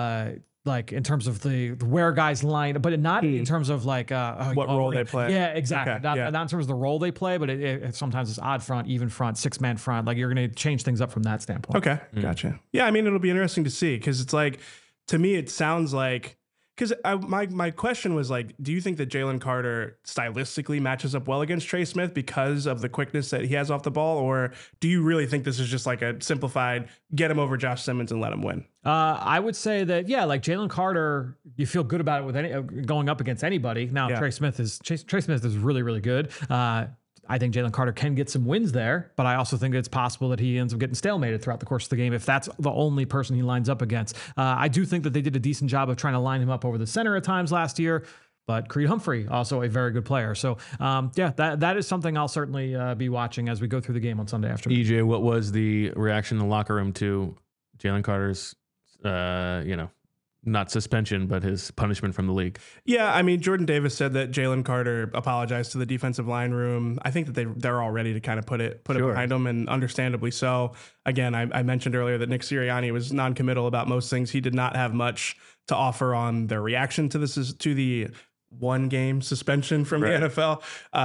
like in terms of the where guys line, but not in terms of like what role they play. Yeah, exactly. Okay, not in terms of the role they play, but it sometimes it's odd front, even front, 6-man front. Like you're going to change things up from that standpoint. Okay, gotcha. Yeah, I mean it'll be interesting to see because it's like, to me it sounds like, Because my question was like, do you think that Jalen Carter stylistically matches up well against Trey Smith because of the quickness that he has off the ball? Or do you really think this is just like a simplified get him over Josh Simmons and let him win? I would say that, yeah, like Jalen Carter, you feel good about it with any going up against anybody. Now, Trey Smith is really, really good. I think Jalen Carter can get some wins there, but I also think it's possible that he ends up getting stalemated throughout the course of the game if that's the only person he lines up against. I do think that they did a decent job of trying to line him up over the center at times last year, but Creed Humphrey, also a very good player. So, that is something I'll certainly be watching as we go through the game on Sunday afternoon. EJ, what was the reaction in the locker room to Jalen Carter's, not suspension, but his punishment from the league? Yeah, I mean, Jordan Davis said that Jalen Carter apologized to the defensive line room. I think that they're all ready to kind of put it behind them, and understandably so. Again, I mentioned earlier that Nick Sirianni was non-committal about most things. He did not have much to offer on their reaction to the one game suspension from the NFL.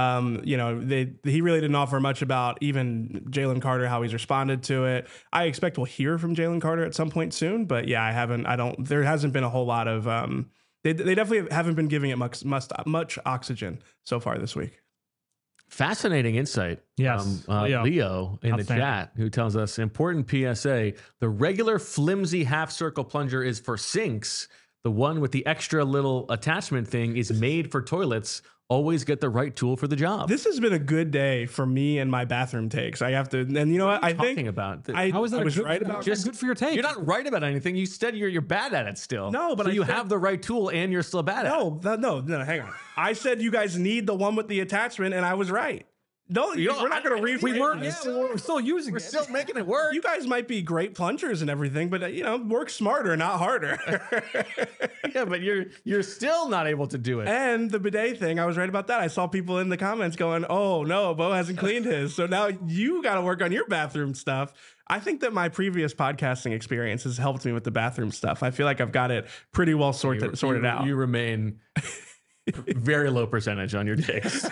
He really didn't offer much about even Jalen Carter, how he's responded to it. I expect we'll hear from Jalen Carter at some point soon, but yeah, there hasn't been a whole lot of, they definitely haven't been giving it much oxygen so far this week. Fascinating insight. Yes. Leo in the chat, who tells us, important PSA, the regular flimsy half circle plunger is for sinks. The one with the extra little attachment thing is made for toilets. Always get the right tool for the job. This has been a good day for me and my bathroom takes. I have to, and you know what? How is that? Just good for your take. You're not right about anything. You said you're bad at it still. No, but so you have the right tool and you're still bad at it. No, hang on. I said you guys need the one with the attachment, and I was right. No, we're not going to reframe. We're still using it. We're still making it work. You guys might be great plungers and everything, but work smarter, not harder. Yeah, but you're still not able to do it. And the bidet thing, I was right about that. I saw people in the comments going, "Oh no, Bo hasn't cleaned his, so now you got to work on your bathroom stuff." I think that my previous podcasting experience has helped me with the bathroom stuff. I feel like I've got it pretty well sorted out. You remain very low percentage on your takes.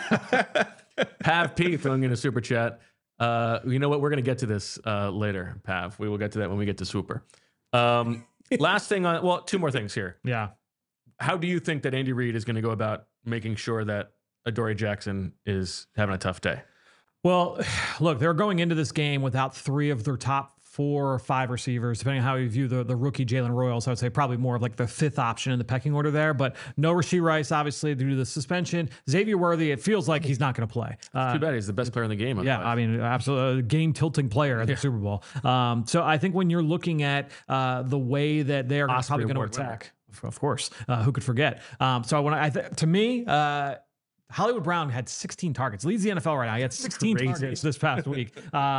Pav P throwing in a super chat. You know what? We're going to get to this later, Pav. We will get to that when we get to Swooper. Last thing two more things here. Yeah. How do you think that Andy Reid is going to go about making sure that Adoree Jackson is having a tough day? Well, look, they're going into this game without three of their top 4 or 5 receivers, depending on how you view the rookie Jalen Royals. I would say probably more of like the 5th option in the pecking order there, but no Rashee Rice, obviously, due to the suspension. Xavier Worthy, it feels like he's not going to play. Too bad. He's the best player in the game. Yeah, I mean, absolutely game-tilting player at the Super Bowl. So I think when you're looking at the way that they are probably going to attack, of course, who could forget? To me, Hollywood Brown had 16 targets. Leads the NFL right now. He had 16 targets this past week.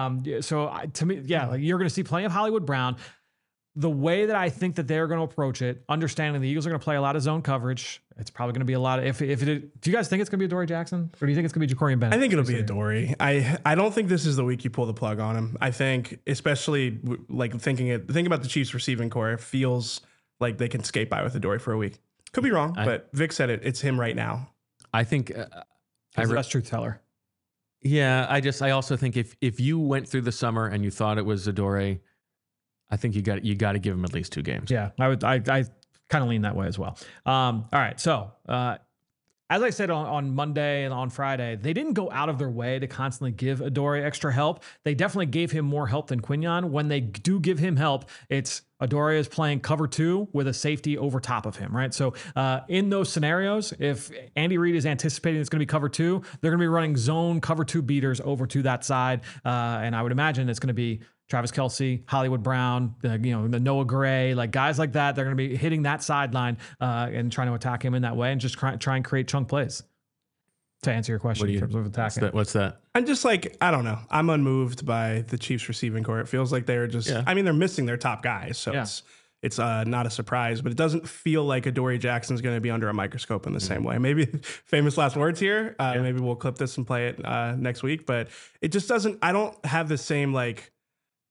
To me, you're going to see plenty of Hollywood Brown. The way that I think that they're going to approach it, understanding the Eagles are going to play a lot of zone coverage. It's probably going to be a lot of, do you guys think it's going to be Adoree Jackson, or do you think it's going to be Jacorian Bennett? I think it'll be Adoree. I don't think this is the week you pull the plug on him. I think, especially like thinking about the Chiefs receiving core, it feels like they can skate by with Adoree for a week. Could be wrong, but Vic said it's him right now. I think he's the best truth teller. Yeah, I also think if you went through the summer and you thought it was Adoree, I think you got to give him at least 2 games. Yeah, I kind of lean that way as well. All right, so as I said on Monday and on Friday, they didn't go out of their way to constantly give Adoree extra help. They definitely gave him more help than Quinyon. When they do give him help, it's Adoree is playing cover 2 with a safety over top of him, right? So in those scenarios, if Andy Reid is anticipating it's going to be cover 2, they're going to be running zone cover 2 beaters over to that side. And I would imagine it's going to be Travis Kelce, Hollywood Brown, the Noah Gray, like guys like that. They're going to be hitting that sideline and trying to attack him in that way and just try and create chunk plays. To answer your question in terms of attacking. What's that? I'm just like, I don't know. I'm unmoved by the Chiefs receiving core. It feels like they're just, I mean, they're missing their top guys. So it's not a surprise, but it doesn't feel like Adoree Jackson's going to be under a microscope in the same way. Maybe famous last words here. Maybe we'll clip this and play it next week, but it just doesn't, I don't have the same like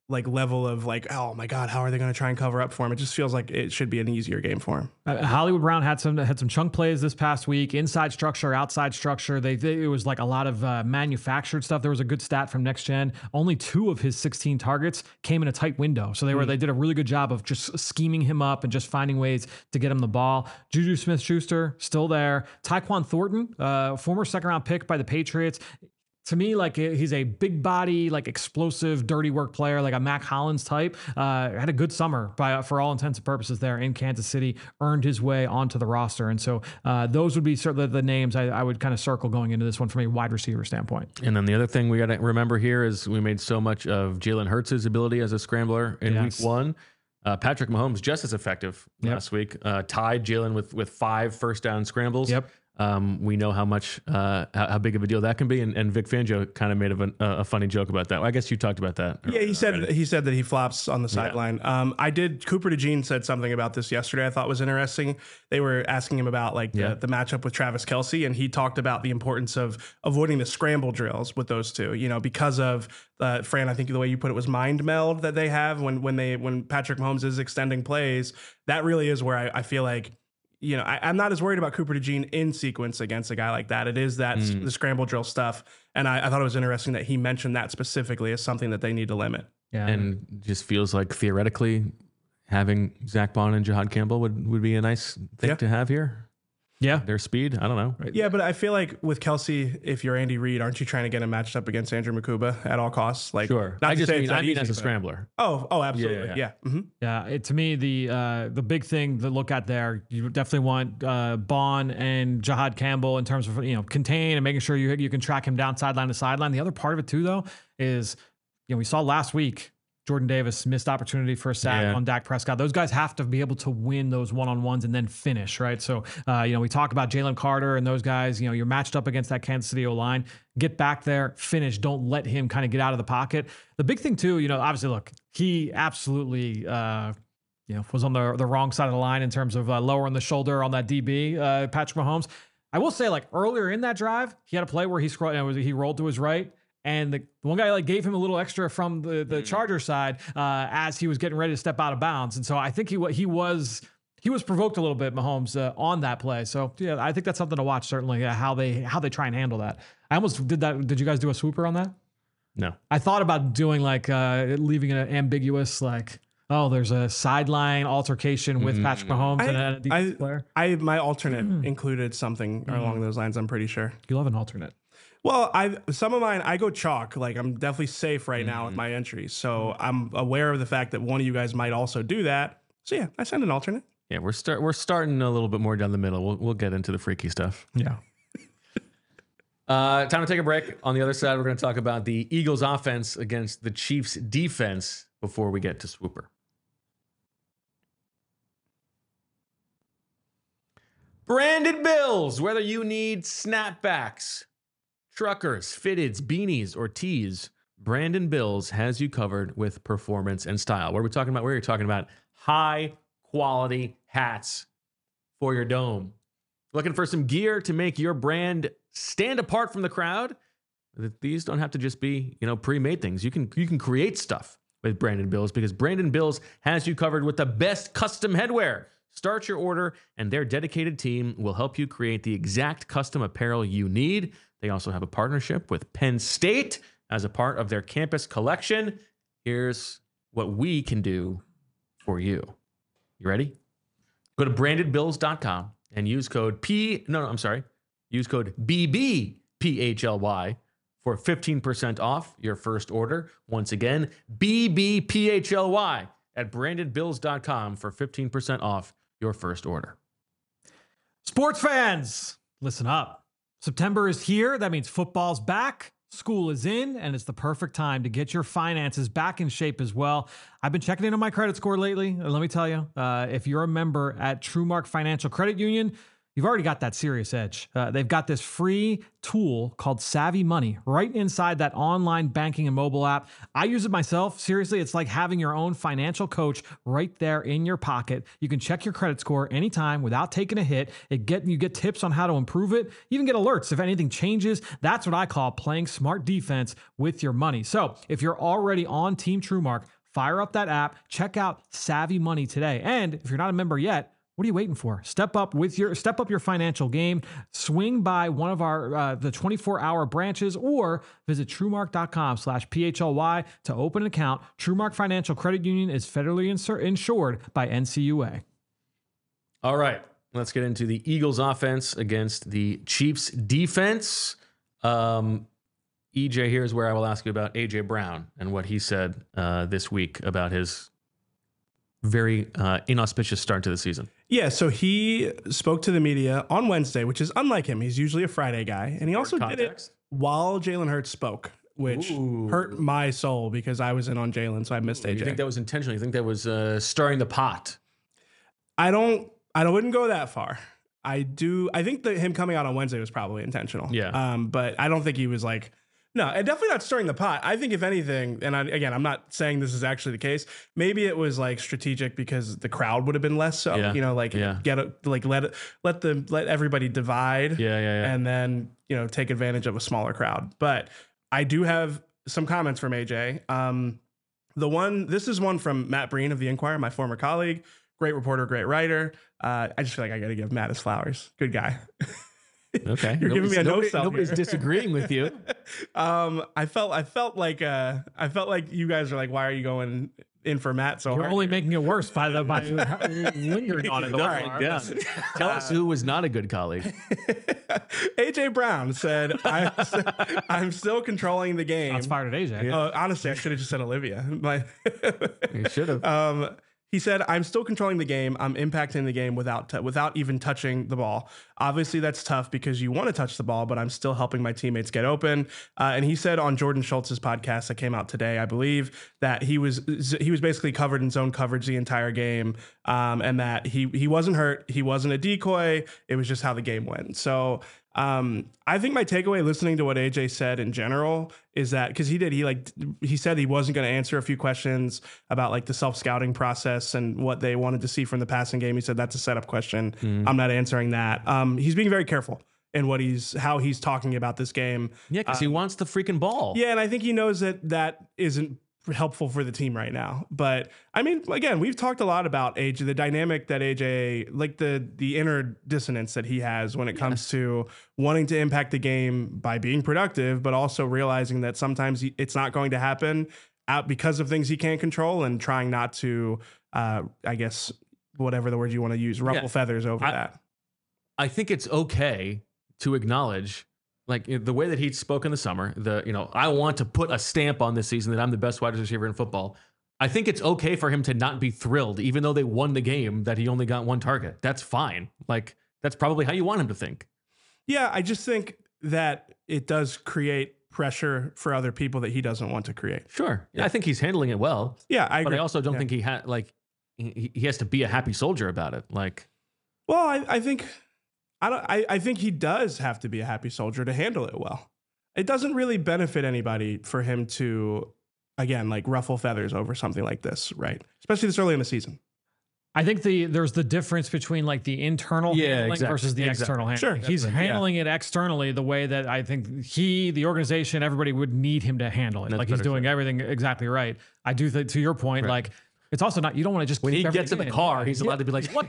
like level of like, oh my God, how are they going to try and cover up for him? It just feels like it should be an easier game for him. Hollywood Brown had some chunk plays this past week, inside structure, outside structure. It was like a lot of manufactured stuff. There was a good stat from Next Gen. Only 2 of his 16 targets came in a tight window. So they did a really good job of just scheming him up and just finding ways to get him the ball. Juju Smith-Schuster still there. Tyquan Thornton, former second round pick by the Patriots. To me, like he's a big body, like explosive, dirty work player, like a Mac Hollins type. Had a good summer for all intents and purposes there in Kansas City, earned his way onto the roster. And so those would be certainly the names I would kind of circle going into this one from a wide receiver standpoint. And then the other thing we got to remember here is we made so much of Jalen Hurts' ability as a scrambler in week 1. Patrick Mahomes just as effective last week. Tied Jalen with 5 first down scrambles. Yep. We know how much how big of a deal that can be, and Vic Fangio kind of made a funny joke about that. I guess you talked about that. Yeah, he said that he flops on the sideline. Cooper DeJean said something about this yesterday I thought was interesting. They were asking him about like the matchup with Travis Kelce, and he talked about the importance of avoiding the scramble drills with those two. You know, because of Fran, I think the way you put it was mind meld that they have when Patrick Mahomes is extending plays. That really is where I feel like, you know, I'm not as worried about Cooper DeJean in sequence against a guy like that. It is that the scramble drill stuff. And I thought it was interesting that he mentioned that specifically as something that they need to limit. Yeah. And just feels like theoretically having Zach Bond and Jahad Campbell would be a nice thing to have here. Yeah. Their speed. I don't know. Yeah, but I feel like with Kelce, if you're Andy Reid, aren't you trying to get him matched up against Andrew Makuba at all costs? Like, sure. I mean as a scrambler. Oh, absolutely. Yeah. Mm-hmm. Yeah. To me, the big thing to look at there, you definitely want Bond and Jahad Campbell in terms of, you know, contain and making sure you can track him down sideline to sideline. The other part of it too, though, is, you know, we saw last week Jordan Davis missed opportunity for a sack on Dak Prescott. Those guys have to be able to win those one-on-ones and then finish, right? So, you know, we talk about Jalen Carter and those guys. You know, you're matched up against that Kansas City O-line. Get back there, finish. Don't let him kind of get out of the pocket. The big thing too, you know, obviously, look, he absolutely, you know, was on the wrong side of the line in terms of lowering the shoulder on that DB, Patrick Mahomes. I will say, like earlier in that drive, he had a play where he rolled to his right. And the one guy like gave him a little extra from the Charger side as he was getting ready to step out of bounds. And so I think he was provoked a little bit, Mahomes, on that play. So yeah, I think that's something to watch, certainly, how they try and handle that. I almost did that. Did you guys do a swooper on that? No. I thought about doing like leaving it ambiguous, like, oh, there's a sideline altercation with Patrick Mahomes and a defensive player. My alternate included something along those lines, I'm pretty sure. You love an alternate. Well, some of mine, I go chalk. Like, I'm definitely safe right now with my entries. So I'm aware of the fact that one of you guys might also do that. So yeah, I send an alternate. Yeah, we're starting a little bit more down the middle. We'll get into the freaky stuff. Yeah. Time to take a break. On the other side, we're going to talk about the Eagles offense against the Chiefs defense before we get to Swooper. Branded Bills, whether you need snapbacks, truckers, fitteds, beanies, or tees, Brandon Bills has you covered with performance and style. What are we talking about? We're talking about high quality hats for your dome. Looking for some gear to make your brand stand apart from the crowd? These don't have to just be, you know, pre-made things. You can create stuff with Brandon Bills because Brandon Bills has you covered with the best custom headwear. Start your order and their dedicated team will help you create the exact custom apparel you need. They also have a partnership with Penn State as a part of their campus collection. Here's what we can do for you. You ready? Go to brandedbills.com and use code use code BBPHLY for 15% off your first order. Once again, BBPHLY at brandedbills.com for 15% off your first order. Sports fans, listen up. September is here. That means football's back, school is in, and it's the perfect time to get your finances back in shape as well. I've been checking in on my credit score lately. Let me tell you, if you're a member at TrueMark Financial Credit Union, you've already got that serious edge. They've got this free tool called Savvy Money right inside that online banking and mobile app. I use it myself. Seriously, it's like having your own financial coach right there in your pocket. You can check your credit score anytime without taking a hit. You get tips on how to improve it. You even get alerts if anything changes. That's what I call playing smart defense with your money. So if you're already on Team TrueMark, fire up that app, check out Savvy Money today. And if you're not a member yet, what are you waiting for? Step up your financial game. Swing by one of our the 24-hour branches or visit truemark.com/PHLY to open an account. TrueMark Financial Credit Union is federally insured by NCUA. All right, let's get into the Eagles offense against the Chiefs defense. EJ, here's where I will ask you about AJ Brown and what he said this week about his very inauspicious start to the season. Yeah, so he spoke to the media on Wednesday, which is unlike him. He's usually a Friday guy. And he also did it while Jalen Hurts spoke, which hurt my soul because I was in on Jalen, so I missed AJ. You think that was intentional? You think that was stirring the pot? I wouldn't go that far. I think that him coming out on Wednesday was probably intentional. Yeah. But I don't think he was like, no, and definitely not stirring the pot. I think if anything, and again, I'm not saying this is actually the case. Maybe it was like strategic because the crowd would have been less. So let everybody divide. And then take advantage of a smaller crowd. But I do have some comments from AJ. This is one from Matt Breen of the Inquirer, my former colleague, great reporter, great writer. I just feel like I got to give Matt his flowers. Good guy. Okay, you're giving me a no-sell. Nobody's disagreeing with you. I felt like you guys are like, why are you going in for Matt so You're hard? only making it worse by lingering on it. Tell us who was not a good colleague. AJ Brown said, "I'm still controlling the game." That's fired at AJ. Honestly, I should have just said Olivia. You should have. He said, "I'm still controlling the game. I'm impacting the game without even touching the ball. Obviously, that's tough because you want to touch the ball, but I'm still helping my teammates get open." And he said on Jordan Schultz's podcast that came out today, I believe, that he was basically covered in zone coverage the entire game, and that he wasn't hurt. He wasn't a decoy. It was just how the game went. So I think my takeaway listening to what AJ said in general is that because he said he wasn't going to answer a few questions about like the self-scouting process and what they wanted to see from the passing game. He said that's a setup question. I'm not answering that. He's being very careful in how he's talking about this game. Yeah, because he wants the freaking ball. Yeah, and I think he knows that isn't helpful for the team right now. But I mean, again, we've talked a lot about AJ, the dynamic that AJ, like the inner dissonance that he has when it comes to wanting to impact the game by being productive, but also realizing that sometimes it's not going to happen out because of things he can't control and trying not to, I guess, whatever the word you want to use, ruffle feathers over that. I think it's okay to acknowledge, like the way that he spoke in the summer, I want to put a stamp on this season that I'm the best wide receiver in football. I think it's okay for him to not be thrilled, even though they won the game, that he only got one target. That's fine. Like, that's probably how you want him to think. Yeah, I just think that it does create pressure for other people that he doesn't want to create. Sure. Yeah. I think he's handling it well. Yeah, I agree. But I also don't think he has to be a happy soldier about it. Like, well, I think he does have to be a happy soldier to handle it well. It doesn't really benefit anybody for him to, again, like ruffle feathers over something like this, right? Especially this early in the season. I think there's the difference between like the internal handling versus the external handling. Sure. He's handling it externally the way that I think the organization, everybody would need him to handle it. That's like he's doing everything exactly right. I do think, to your point, like, it's also not, you don't want to just when he gets in the car, he's allowed to be like, what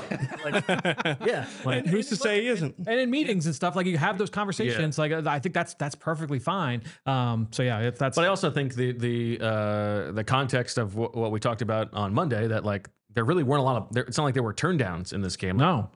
the like, who's to say he isn't? And in meetings and stuff, like you have those conversations. Like I think that's perfectly fine. So yeah, that's. But I also think the context of what we talked about on Monday, that like there really weren't a lot of. It's not like there were turndowns in this game. No.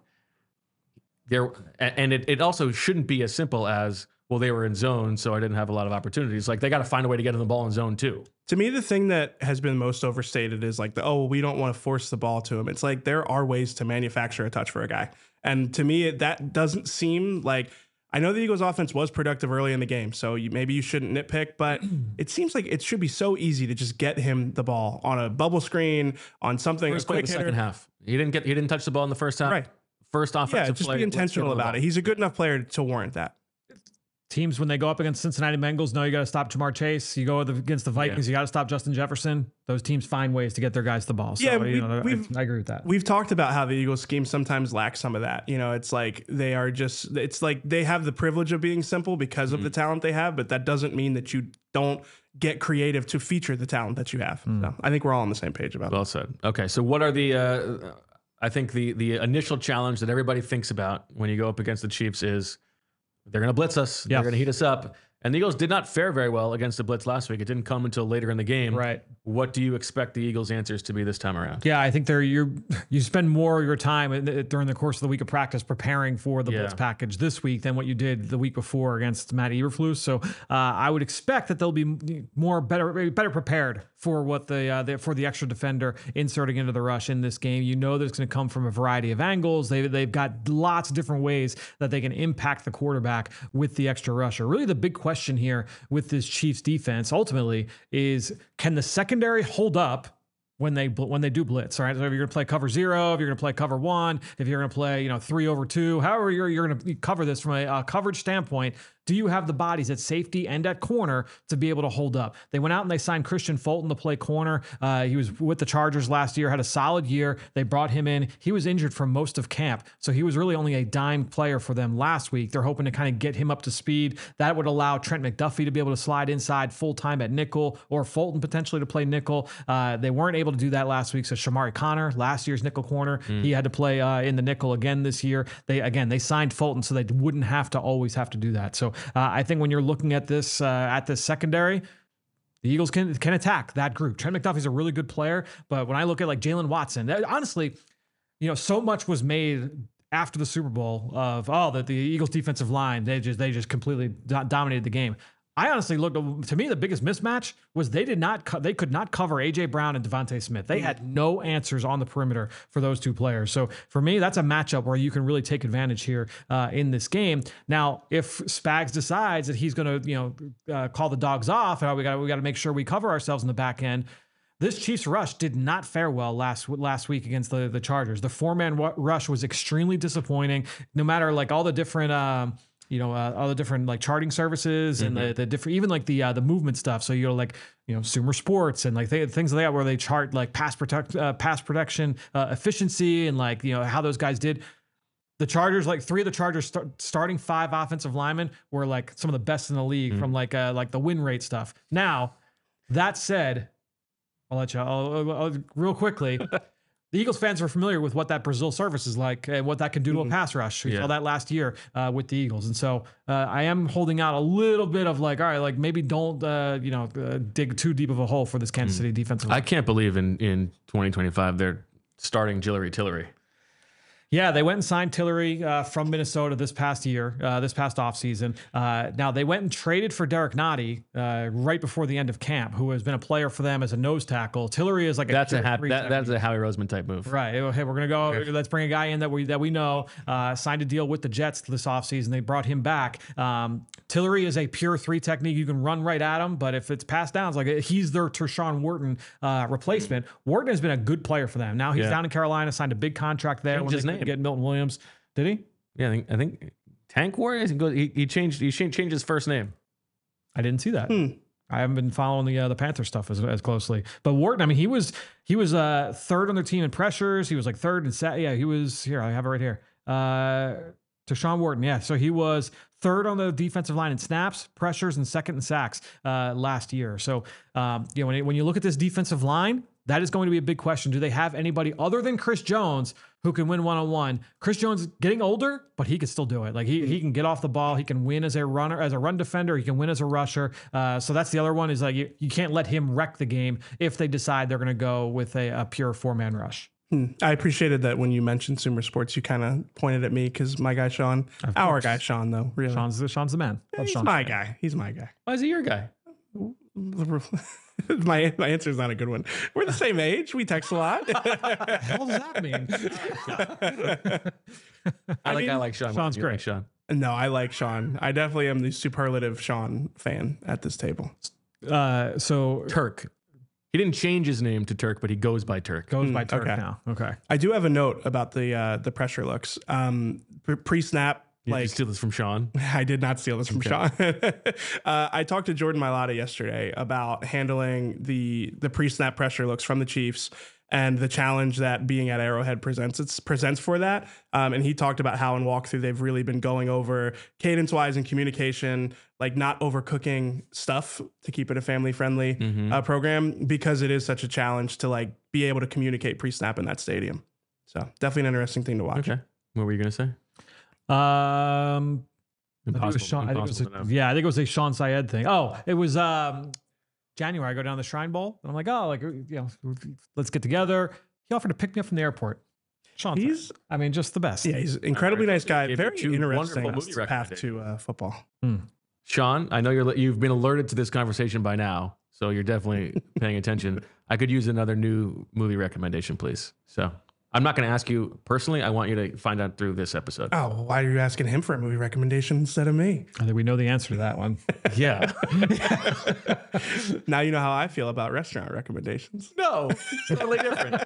And it also shouldn't be as simple as, well, they were in zone, so I didn't have a lot of opportunities. Like, they got to find a way to get in the ball in zone too. To me, the thing that has been most overstated is like we don't want to force the ball to him. It's like there are ways to manufacture a touch for a guy. And to me, that doesn't seem like, I know the Eagles offense was productive early in the game, so maybe you shouldn't nitpick, but it seems like it should be so easy to just get him the ball on a bubble screen, on something. First play of the second half. He didn't touch the ball in the first half. Right. first offensive just play. be intentional about it. He's a good enough player to warrant that. Teams, when they go up against Cincinnati Bengals, know you got to stop Jamar Chase. You go against the Vikings, you got to stop Justin Jefferson. Those teams find ways to get their guys the ball. So, I agree with that. We've talked about how the Eagles scheme sometimes lacks some of that. It's like they are just, it's like they have the privilege of being simple because of the talent they have, but that doesn't mean that you don't get creative to feature the talent that you have. So I think we're all on the same page about Well said. Okay, so what are the, I think the initial challenge that everybody thinks about when you go up against the Chiefs is, they're going to blitz us. They're going to heat us up. And the Eagles did not fare very well against the blitz last week. It didn't come until later in the game. Right. What do you expect the Eagles' answers to be this time around? Yeah, I think you spend more of your time during the course of the week of practice preparing for the blitz package this week than what you did the week before against Matt Eberflus. So I would expect that they'll be better prepared for what for the extra defender inserting into the rush in this game. You know that it's going to come from a variety of angles. They've got lots of different ways that they can impact the quarterback with the extra rusher. Really, the big question here with this Chiefs defense ultimately is, can the secondary hold up when they do blitz? All right, so if you're going to play cover 0, if you're going to play cover 1, if you're going to play 3 over 2, however you're going to cover this from a coverage standpoint, do you have the bodies at safety and at corner to be able to hold up? They went out and they signed Christian Fulton to play corner. He was with the Chargers last year, had a solid year. They brought him in. He was injured for most of camp, so he was really only a dime player for them last week. They're hoping to kind of get him up to speed. That would allow Trent McDuffie to be able to slide inside full-time at nickel, or Fulton potentially to play nickel. They weren't able to do that last week, so Shamari Connor, last year's nickel corner, he had to play in the nickel again this year. They signed Fulton so they wouldn't have to always have to do that. So I think when you're looking at this secondary, the Eagles can attack that group. Trent McDuffie's a really good player, but when I look at like Jalen Watson, honestly, so much was made after the Super Bowl of that the Eagles defensive line, they just completely dominated the game. I honestly looked, to me, the biggest mismatch was they could not cover AJ Brown and Devontae Smith. They had no answers on the perimeter for those two players. So for me, that's a matchup where you can really take advantage here in this game. Now, if Spags decides that he's going to, call the dogs off, and we got to make sure we cover ourselves in the back end. This Chiefs rush did not fare well last week against the Chargers. The 4-man rush was extremely disappointing. No matter like all the different, all the different like charting services and the different, even like the movement stuff. So Sumer Sports and like things like that, where they chart like pass protection efficiency and like how those guys did. The Chargers, like 3 of the Chargers starting 5 offensive linemen were like some of the best in the league from like the win rate stuff. Now, that said, I'll real quickly. The Eagles fans are familiar with what that Brazil service is like and what that can do to a pass rush. We saw that last year with the Eagles. And so I am holding out a little bit of like, all right, like maybe don't, dig too deep of a hole for this Kansas City defensive line. I can't believe in 2025 they're starting Jillery Tillery. Yeah, they went and signed Tillery from Minnesota this past offseason. Now, they went and traded for Derek Nottie right before the end of camp, who has been a player for them as a nose tackle. Tillery is like that's a Howie Roseman type move. Right. Hey, we're going to go. Let's bring a guy in that we know. Signed a deal with the Jets this offseason. They brought him back. Tillery is a pure 3 technique. You can run right at him, but if it's pass downs, like he's their Tershawn Wharton replacement. Wharton has been a good player for them. Now he's down in Carolina, signed a big contract there. Changed his name. Get Milton Williams. Did he? Yeah, I think Tank Warrior. He changed his first name. I didn't see that. I haven't been following the Panther stuff as closely. But Wharton, I mean, he was 3rd on their team in pressures. He was like 3rd in set. Yeah, he was here. I have it right here. Tershawn Wharton. Yeah, so he was 3rd on the defensive line in snaps, pressures, and 2nd in sacks last year. So when you look at this defensive line, that is going to be a big question. Do they have anybody other than Chris Jones who can win one-on-one? Chris Jones is getting older, but he can still do it. Like he can get off the ball. He can win as a runner, as a run defender. He can win as a rusher. So that's the other one, is like you can't let him wreck the game if they decide they're going to go with a pure 4-man rush. I appreciated that when you mentioned Sumer Sports, you kind of pointed at me because my guy Sean, our guy Sean, though, really. Sean's the man. He's my guy. He's my guy. Why is he your guy? My answer is not a good one. We're the same age. We text a lot. What the hell does that mean? I like Sean. Sean's great. Like Sean. No, I like Sean. I definitely am the superlative Sean fan at this table. So Turk. He didn't change his name to Turk, but he goes by Turk. Goes by Turk okay. now. Okay. I do have a note about the pressure looks. Pre-snap. You like, steal this from Sean? I did not steal this from Sean. I talked to Jordan Mailata yesterday about handling the pre-snap pressure looks from the Chiefs and the challenge that being at Arrowhead presents for that. And he talked about how in walkthrough they've really been going over cadence-wise and communication, like not overcooking stuff to keep it a family-friendly program, because it is such a challenge to like be able to communicate pre-snap in that stadium. So definitely an interesting thing to watch. Okay. What were you going to say? I think it was a Sean Syed thing. Oh, it was January. I go down to the Shrine Bowl and I'm like, oh, like, you know, let's get together. He offered to pick me up from the airport. Sean, I mean, just the best. Yeah, he's an incredibly nice guy. Very interesting movie path to football. Sean, I know you've been alerted to this conversation by now, so you're definitely paying attention. I could use another new movie recommendation, please. So I'm not going to ask you personally. I want you to find out through this episode. Oh, why are you asking him for a movie recommendation instead of me? I think we know the answer to that one. Yeah. Now you know how I feel about restaurant recommendations. No, totally different.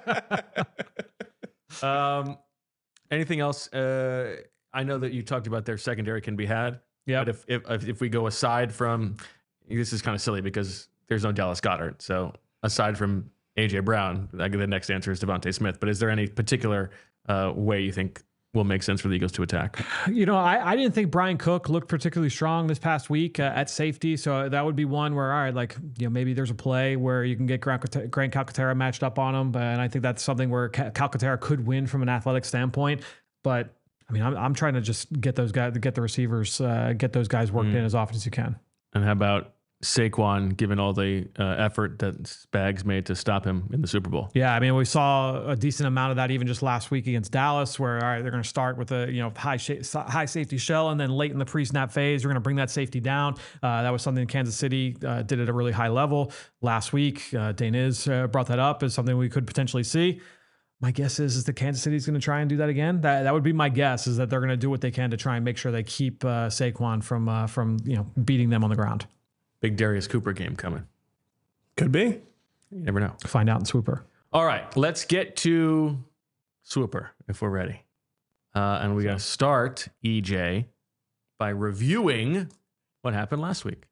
Anything else? I know that you talked about their secondary can be had. Yeah. But if we go aside from, this is kind of silly because there's no Dallas Goedert. So aside from AJ Brown, the next answer is Devontae Smith. But is there any particular way you think will make sense for the Eagles to attack? You know, I didn't think Brian Cook looked particularly strong this past week at safety. So that would be one where, all right, like, you know, maybe there's a play where you can get Grant Calcaterra matched up on him. And I think that's something where Calcaterra could win from an athletic standpoint. But I mean, I'm trying to just get those guys, get the receivers, get those guys worked in as often as you can. And how about Saquon, given all the effort that Spags made to stop him in the Super Bowl? Yeah, I mean, we saw a decent amount of that even just last week against Dallas, where all right, they're going to start with a high safety shell, and then late in the pre-snap phase, we're going to bring that safety down. That was something Kansas City did at a really high level last week. Dane Is brought that up as something we could potentially see. My guess is that Kansas City is going to try and do that again. That would be my guess, is that they're going to do what they can to try and make sure they keep Saquon from beating them on the ground. Big Darius Cooper game coming. Could be. You never know. Find out in Swooper. All right, let's get to Swooper if we're ready. And we're going to start, EJ, by reviewing what happened last week.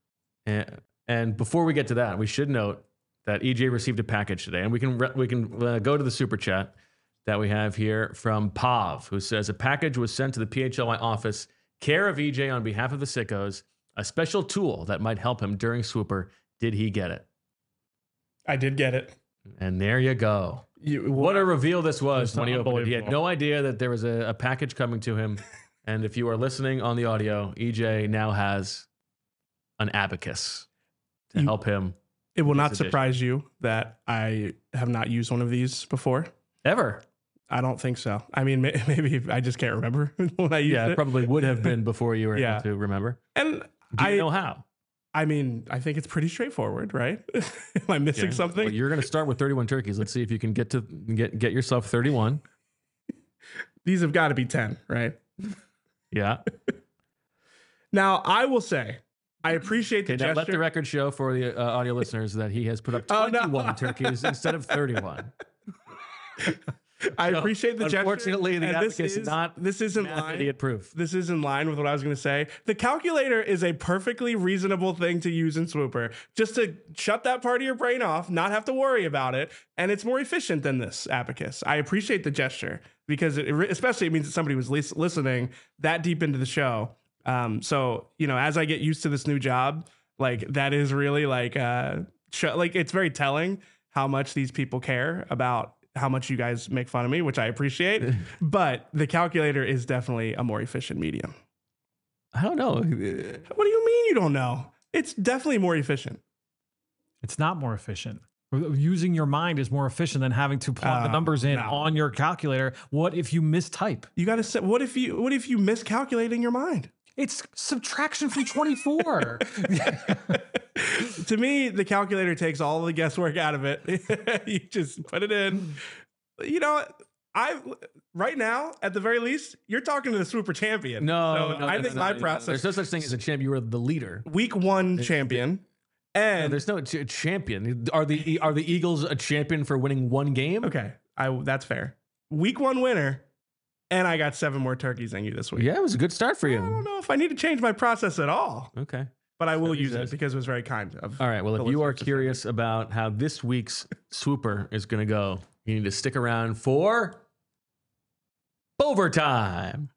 And before we get to that, we should note that EJ received a package today. And we can go to the super chat that we have here from Pav, who says, a package was sent to the PHLY office, care of EJ on behalf of the Sickos, a special tool that might help him during Swooper. Did he get it? I did get it. And there you go. What a reveal this was when he opened it. He had no idea that there was a package coming to him. And if you are listening on the audio, EJ now has an abacus to help him. It will not surprise you that I have not used one of these before. Ever? I don't think so. I mean, maybe I just can't remember when I used it. Yeah, it probably would have been before you were able to remember. And do you know how? I mean, I think it's pretty straightforward, right? Am I missing something? Well, you're going to start with 31 turkeys. Let's see if you can get yourself 31. These have got to be 10, right? Yeah. Now, I will say, I appreciate the gesture. Let the record show for the audio listeners that he has put up 21 turkeys instead of 31. I appreciate the gesture. Unfortunately, the abacus is not. This isn't line. Idiot proof. This is in line with what I was going to say. The calculator is a perfectly reasonable thing to use in Swooper, just to shut that part of your brain off, not have to worry about it, and it's more efficient than this abacus. I appreciate the gesture because especially it means that somebody was listening that deep into the show. So as I get used to this new job, like that is really like it's very telling how much these people care about how much you guys make fun of me, which I appreciate. But the calculator is definitely a more efficient medium. I don't know. What do you mean you don't know? It's definitely more efficient. It's not more efficient. Using your mind is more efficient than having to plug the numbers in on your calculator. What if you mistype? You got to say, what if you miscalculate in your mind? It's subtraction from 24. To me, the calculator takes all the guesswork out of it. You just put it in. Right now, at the very least, you're talking to the Swooper champion. No, I think my process. There's no such thing as a champ. You were the leader. Week 1 champion. And there's no champion. Are the Eagles a champion for winning one game? okay, that's fair. Week 1 winner, and I got 7 more turkeys than you this week. Yeah, it was a good start for you. I don't know if I need to change my process at all, Okay. but I will use it because it was very kind of. All right. Well, the if you are listeners to curious about how this week's swooper is going to go, you need to stick around for overtime.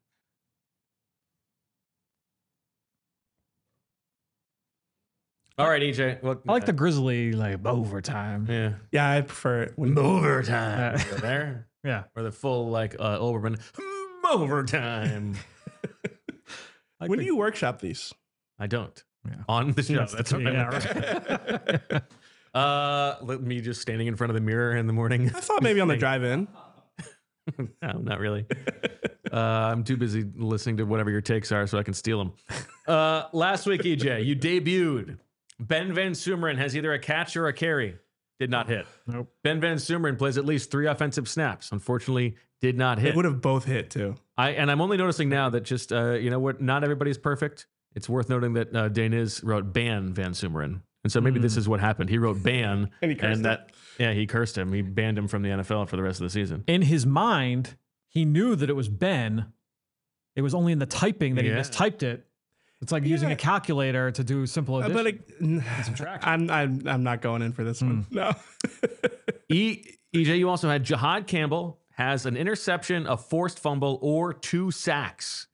All right, EJ. Well, I like the Grizzly overtime. yeah. Yeah, I prefer it when Overtime. Go there. Yeah. Or the full Overman overtime. when do you workshop these? I don't. Yeah. On the show. Yes, That's what yeah, right. Let me just standing in front of the mirror in the morning. I thought maybe on the drive-in. No, not really. I'm too busy listening to whatever your takes are so I can steal them. Last week, EJ, you debuted. Ben Van Sumeren has either a catch or a carry. Did not hit. Nope. Ben Van Sumeren plays at least 3 offensive snaps. Unfortunately, did not hit. It would have both hit too. I'm only noticing now that just you know what? Not everybody's perfect. It's worth noting that Daniz wrote ban Van Sumeren, and so maybe this is what happened. He wrote ban, And he cursed him. Yeah, he cursed him. He banned him from the NFL for the rest of the season. In his mind, he knew that it was Ben. It was only in the typing that he Yeah. mistyped it. It's like using a calculator to do simple addition. But subtraction. I'm not going in for this one. No. EJ, you also had Jahad Campbell has an interception, a forced fumble, or 2 sacks.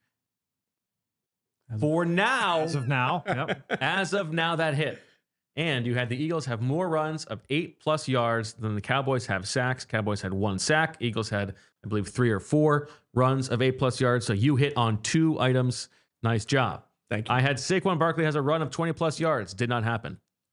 For now, As of now, yep. as of now, that hit. And you had the Eagles have more runs of 8+ yards than the Cowboys have sacks. Cowboys had 1 sack. Eagles had, I believe, 3 or 4 runs of 8+ yards. So you hit on 2 items. Nice job. Thank you. I had Saquon Barkley has a run of 20+ yards. Did not happen.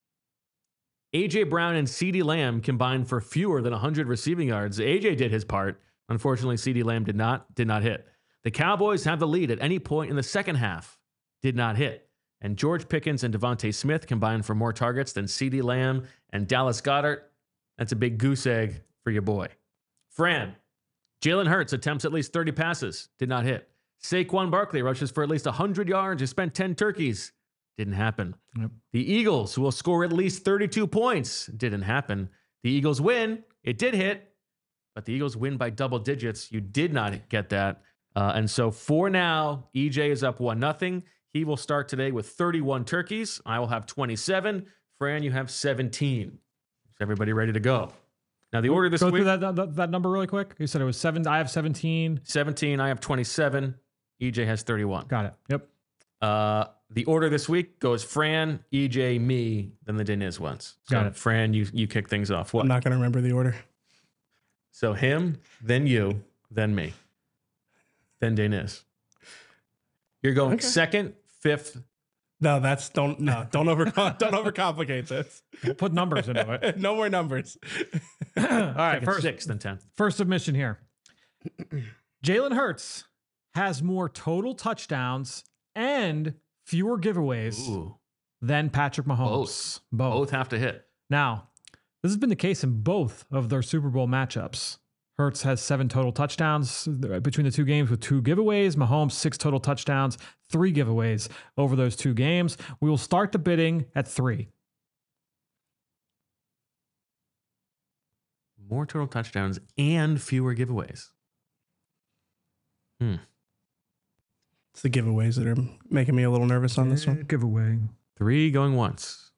AJ Brown and CeeDee Lamb combined for fewer than 100 receiving yards. AJ did his part. Unfortunately, CeeDee Lamb did not hit. The Cowboys have the lead at any point in the second half. Did not hit. And George Pickens and Devontae Smith combined for more targets than CeeDee Lamb and Dallas Goedert. That's a big goose egg for your boy. Fran, Jalen Hurts attempts at least 30 passes. Did not hit. Saquon Barkley rushes for at least 100 yards. He spent 10 turkeys. Didn't happen. Yep. The Eagles, who will score at least 32 points. Didn't happen. The Eagles win. It did hit, but the Eagles win by double digits. You did not get that. And so for now, EJ is up 1-0. He will start today with 31 turkeys. I will have 27. Fran, you have 17. Is everybody ready to go? Now, the order this Go week. through that number really quick. You said it was 7. I have 17. 17. I have 27. EJ has 31. Got it. Yep. The order this week goes Fran, EJ, me, then the Deniz ones. So Got it. Fran, you kick things off. What? I'm not going to remember the order. So him, then you, then me, then Deniz. You're going Okay. second, fifth. No, don't overcomplicate this. We'll put numbers into it. No more numbers. All right. Second, sixth, and 10th. First submission here. Jalen Hurts has more total touchdowns and fewer giveaways Ooh, than Patrick Mahomes. both have to hit. Now, this has been the case in both of their Super Bowl matchups. Hurts has 7 total touchdowns between the 2 games with 2 giveaways. Mahomes, 6 total touchdowns, 3 giveaways over those 2 games. We will start the bidding at 3. More total touchdowns and fewer giveaways. It's the giveaways that are making me a little nervous on this one. Giveaway. 3 going once.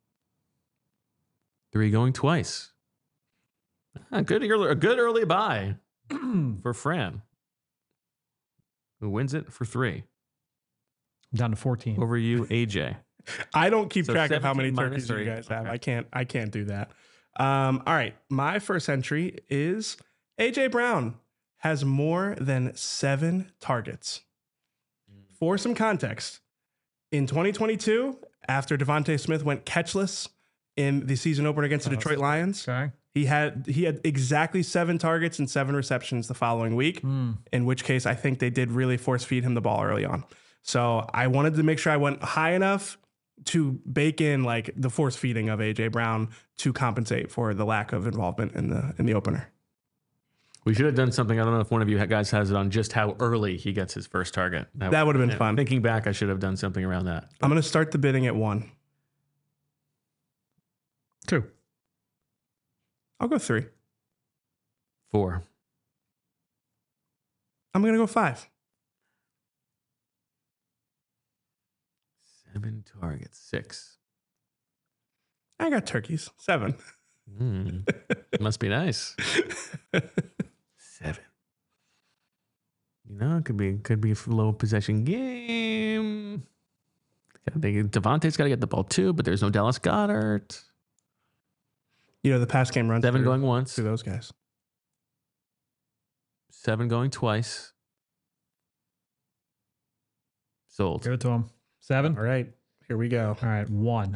3 going twice. A good early buy for Fran, who wins it for 3 Down to 14. over you, AJ. I don't keep So track of how 17 many minus turkeys you 3. guys have. Okay. I can't do that. All right. My first entry is AJ Brown has more than 7 targets. For some context, in 2022, after Devontae Smith went catchless in the season opener against the Detroit Lions, Okay. he had exactly 7 targets and 7 receptions the following week, in which case I think they did really force feed him the ball early on. So I wanted to make sure I went high enough to bake in like the force feeding of AJ Brown to compensate for the lack of involvement in the opener. We should have done something. I don't know if one of you guys has it on just how early he gets his first target. That would have been fun. Thinking back, I should have done something around that. I'm going to start the bidding at 1. 2. I'll go 3. 4. I'm going to go 5. 7 targets. 6. I got turkeys. 7. Must be nice. 7. You know, it could be a low possession game. Devontae's got to get the ball too, but there's no Dallas Goedert. You know, the pass game runs 7 going once. To those guys. 7 going twice. Sold. Give it to him. 7. All right. Here we go. All right. 1.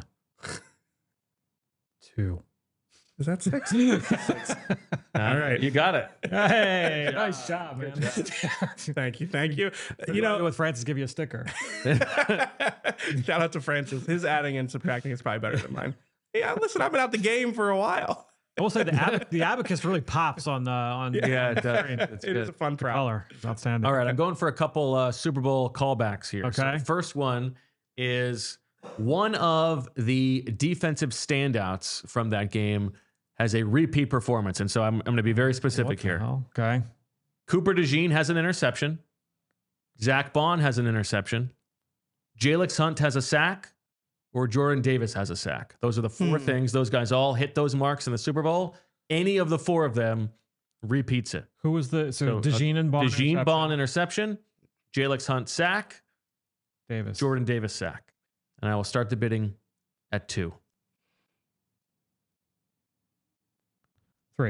2. Is that 6? All right. You got it. Hey, nice job, man. Thank you. You know, with Francis, give you a sticker. Shout out to Francis. His adding and subtracting is probably better than mine. Yeah, listen, I've been out the game for a while. I will say the abacus really pops on Yeah, it does. It is a fun prop. color. It's outstanding. All right, I'm going for a couple Super Bowl callbacks here. Okay. So first one is one of the defensive standouts from that game has a repeat performance. And so I'm going to be very specific here. Okay. Cooper DeJean has an interception. Zach Bond has an interception. Jalix Hunt has a sack. Or Jordan Davis has a sack. Those are the 4 things. Those guys all hit those marks in the Super Bowl. Any of the 4 of them repeats it. Who was DeJean and Bond? DeJean Bond interception. Jalix Hunt sack. Davis. Jordan Davis sack. And I will start the bidding at 2. 3.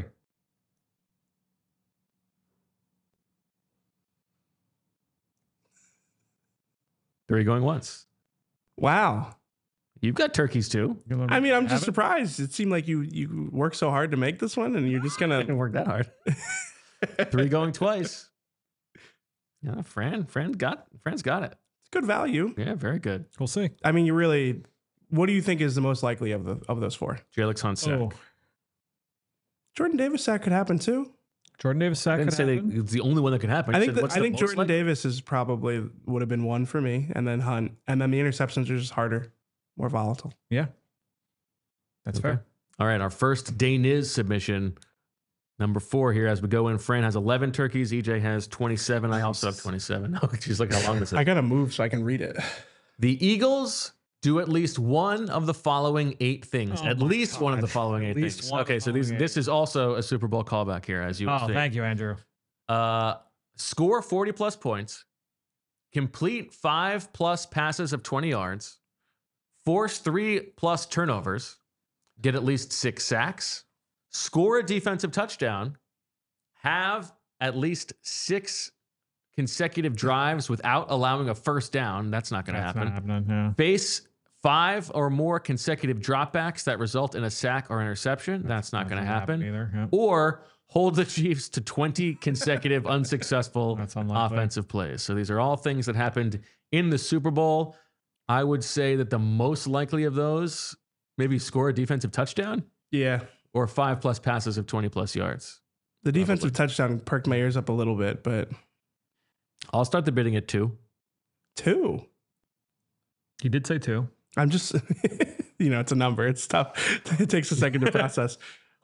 3 going once. Wow. You've got turkeys too. I mean, I'm just surprised. It seemed like you worked so hard to make this one, and you're just I gonna didn't work that hard. 3 going twice. Yeah, Fran's got it. It's good value. Yeah, very good. We'll see. I mean, what do you think is the most likely of those 4? Jalix Hunt sack. Oh, Jordan Davis sack could happen too. Jordan Davis sack. I didn't say it's the only one that could happen. I I think said, I think Jordan Davis is probably would have been 1 for me, and then Hunt, and then the interceptions are just harder, more volatile. Yeah, that's fair. All right, our first Daniz submission, number 4 here as we go in. Fran has 11 turkeys. EJ has 27. I also have 27. Oh, geez, look how long this is. I gotta move so I can read it. The Eagles do at least one of the following 8 things. At least one of the following 8 things. Okay, so this is also a Super Bowl callback here, as you will see. Thank you, Andrew. Score 40 plus points, complete 5 plus passes of 20 yards, force 3 plus turnovers, get at least 6 sacks, score a defensive touchdown, have at least 6 consecutive drives without allowing a first down. That's not going to happen. Not happening, yeah. Face 5 or more consecutive dropbacks that result in a sack or interception. That's not going to happen either. Yeah. Or hold the Chiefs to 20 consecutive unsuccessful offensive plays. So these are all things that happened in the Super Bowl. I would say that the most likely of those, maybe score a defensive touchdown. Yeah. Or 5 plus passes of 20 plus yards. The defensive touchdown perked my ears up a little bit, but I'll start the bidding at 2. 2. He did say 2. I'm just, it's a number. It's tough. It takes a second to process.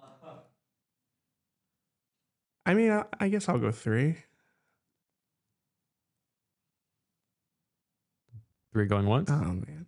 I mean, I guess I'll go 3. 3 going once. Oh, man.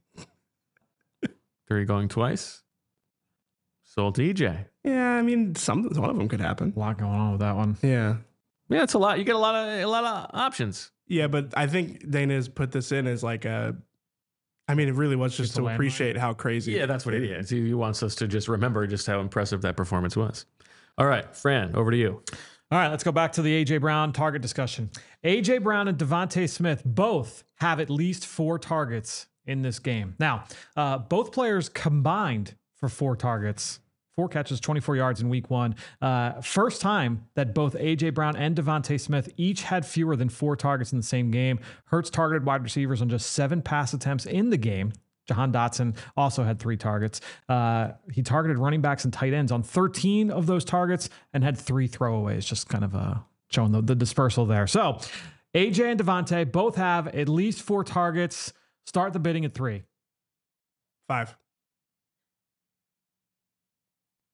3 going twice. Sold to EJ. Yeah, I mean, one of them could happen. A lot going on with that one. Yeah. Yeah, it's a lot. You get a lot of options. Yeah, but I think Dana's put this in as like it really was just to appreciate how crazy. Yeah, that's what it is. He wants us to just remember just how impressive that performance was. All right, Fran, over to you. All right, let's go back to the A.J. Brown target discussion. A.J. Brown and Devontae Smith both have at least 4 targets in this game. Now, both players combined for 4 targets, 4 catches, 24 yards in week 1. First time that both A.J. Brown and Devontae Smith each had fewer than 4 targets in the same game. Hurts targeted wide receivers on just 7 pass attempts in the game. Jahan Dotson also had 3 targets. He targeted running backs and tight ends on 13 of those targets and had 3 throwaways, just kind of showing the dispersal there. So AJ and Devontae both have at least 4 targets. Start the bidding at 3. 5.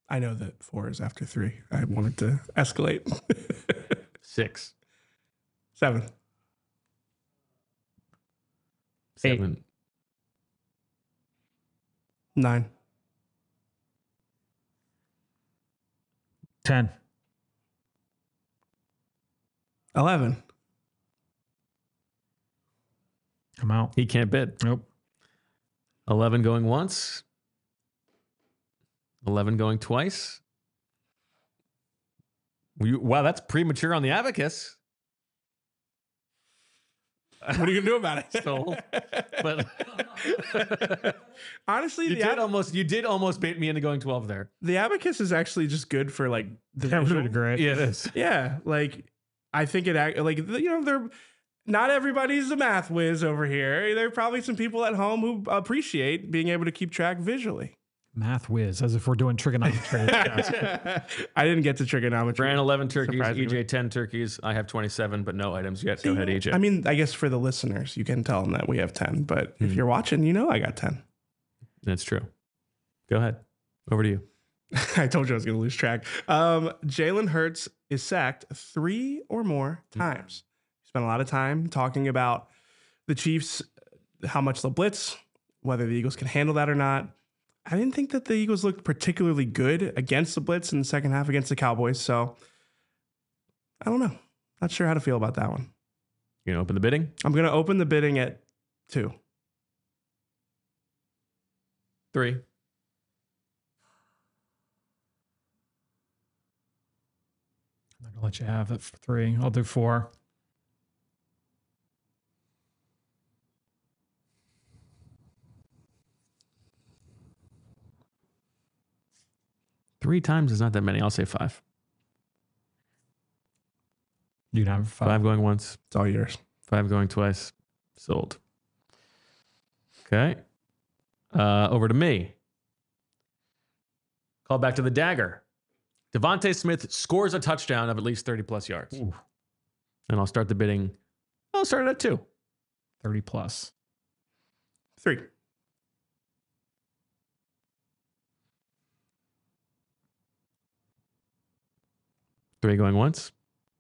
I know that 4 is after 3. I wanted to escalate. 6. 7. 7. 9. 10. 11. I'm out. He can't bid. Nope. 11 going once. 11 going twice. Wow, that's premature on the abacus. What are you gonna do about it? Sold. But honestly, you did almost bait me into going 12 there. the abacus is actually just good for like the That would visual. be great. Yeah, it is. Yeah, like I think they're not everybody's a math whiz over here. There are probably some people at home who appreciate being able to keep track visually. Math whiz, as if we're doing trigonometry. I didn't get to trigonometry. Brand 11 turkeys, Surprisingly. EJ 10 turkeys. I have 27, but no items yet. Go ahead, EJ. I mean, I guess for the listeners, you can tell them that we have 10, but if you're watching, you know I got 10. That's true. Go ahead. Over to you. I told you I was going to lose track. Jalen Hurts is sacked 3 or more times. Spent a lot of time talking about the Chiefs, how much they'll blitz, whether the Eagles can handle that or not. I didn't think that the Eagles looked particularly good against the blitz in the second half against the Cowboys. So I don't know. Not sure how to feel about that one. You gonna open the bidding? I'm going to open the bidding at 2. 3. I'm not gonna let you have it for 3. I'll do 4. Three times is not that many. I'll say 5. You can have 5. 5 going once. It's all yours. 5 going twice. Sold. Okay. Over to me. Call back to the dagger. Devontae Smith scores a touchdown of at least 30 plus yards. Ooh. And I'll start the bidding. I'll start it at 2. 30 plus. 3. 3 going once.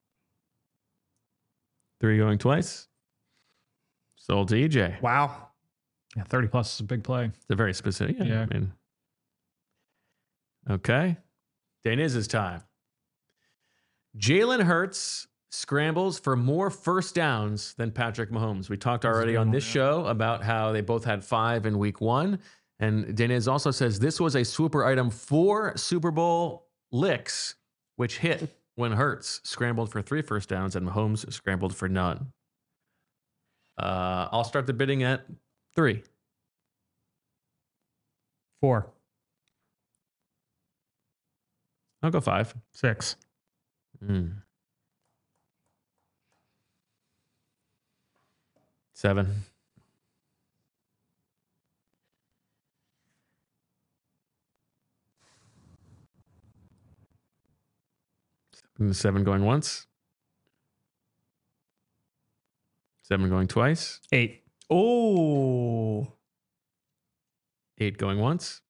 3 going twice. Sold to EJ. Wow. Yeah, 30 plus is a big play. It's a very specific. Yeah. Yeah. I mean, okay. Daniz's time. Jalen Hurts scrambles for more first downs than Patrick Mahomes. We talked already on this show about how they both had 5 in week 1. And Daniz also says this was a swooper item for Super Bowl licks, which hit when Hurts scrambled for 3 first downs and Mahomes scrambled for none. I'll start the bidding at 3. 4. I'll go 5. 6. 7. 7 going once. 7 going twice. 8. Oh. 8 going once.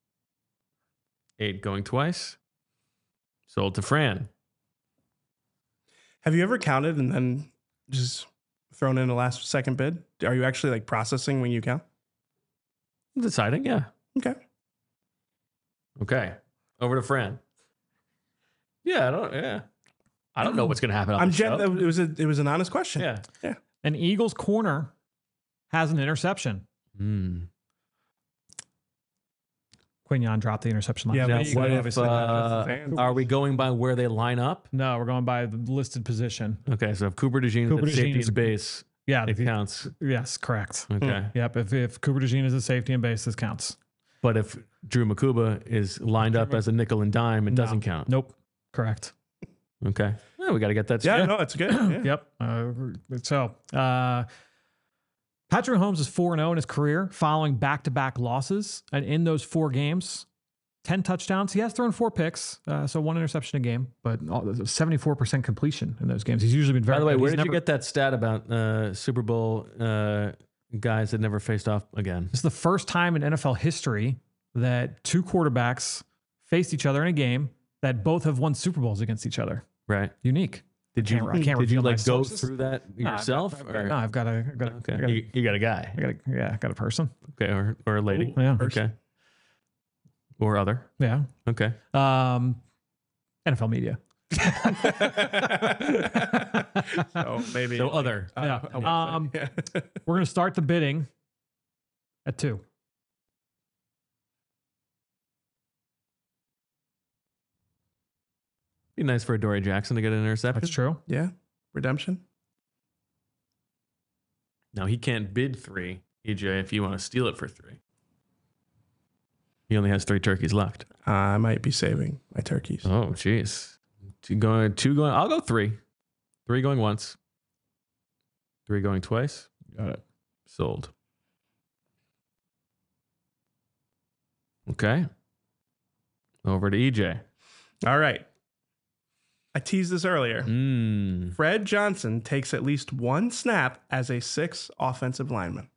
8 going twice. Sold to Fran. Have you ever counted and then just thrown in a last second bid? Are you actually like processing when you count? Deciding, yeah. Okay. Okay. Over to Fran. Yeah, I don't know what's going to happen on the show. It was an honest question. Yeah. An Eagles corner has an interception. Quignon dropped the interception last Yeah, night. but What if, obviously not. are we going by where they line up? No, we're going by the listed position. Okay, so if Cooper DeJean Cooper is at DeJean safety is- and base, Yeah, it counts. yes, correct. Okay. Yep, if Cooper DeJean is a safety and base, this counts. But if Drew Makuba is lined up as a nickel and dime, it doesn't count. Nope, correct. Okay. Well, we got to get that Yeah, straight. no, it's good. Yeah. Yep. Patrick Mahomes is 4-0 in his career following back-to-back losses. And in those 4 games, 10 touchdowns. He has thrown 4 picks, so 1 interception a game, but 74% completion in those games. He's usually been very By the way, good. where He's did you never- get that stat about Super Bowl guys that never faced off again? This is the first time in NFL history that 2 quarterbacks faced each other in a game that both have won Super Bowls against each other. Right. Unique. Did you I can't did you reveal my like go sources. through that yourself? I've got a Okay. You got a guy. I got a person. Okay, or a lady. Yeah. Okay. Or other. Yeah. Okay. NFL media. So maybe. So other. Yeah. Yeah. We're going to start the bidding at 2. Be nice for Adoree Jackson to get an interception. That's true. Yeah. Redemption. Now he can't bid 3, EJ, if you want to steal it for 3. He only has 3 turkeys left. I might be saving my turkeys. Oh, jeez. 2 going. I'll go 3. 3 going once. 3 going twice. Got it. Sold. Okay. Over to EJ. All right. I teased this earlier. Fred Johnson takes at least 1 snap as a 6 offensive lineman.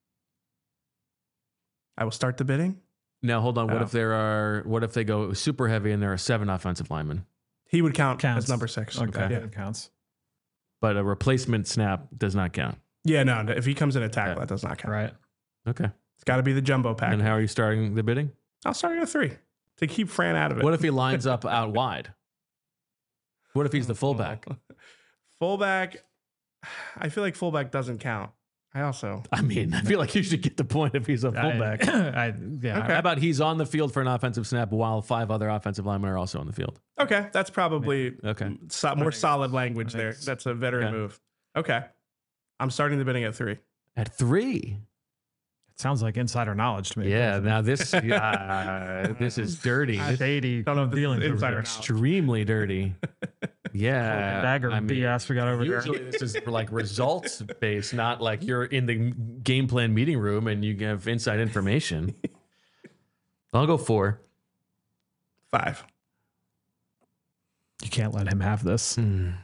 I will start the bidding. Now hold on. What if they go super heavy and there are 7 offensive linemen? He would count Counts. as number 6. Okay. Yeah. It counts. But a replacement snap does not count. Yeah, no. If he comes in a tackle, that does not count. Right. Okay. It's got to be the jumbo pack. And how are you starting the bidding? I'll start at a 3 to keep Fran out of it. What if he lines up out wide? What if he's the fullback? Fullback. I feel like fullback doesn't count. I feel like you should get the point if he's a fullback. Okay. How about he's on the field for an offensive snap while 5 other offensive linemen are also on the field? Okay, that's probably Okay. more solid language there. That's a veteran move. Okay. I'm starting the bidding at 3. At 3? It sounds like insider knowledge to me. Yeah. Now this this is dirty. Shady. Don't know if this is dealings over insider there. knowledge. Extremely dirty. Yeah. Dagger BS we got over there. Usually this is like results based, not like you're in the game plan meeting room and you have inside information. I'll go 4. 5. You can't let him have this.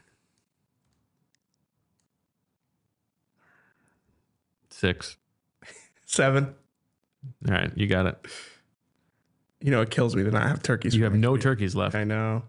6. 7. All right, you got it. You know, it kills me to not have turkeys. You for have next no week. turkeys left. I know.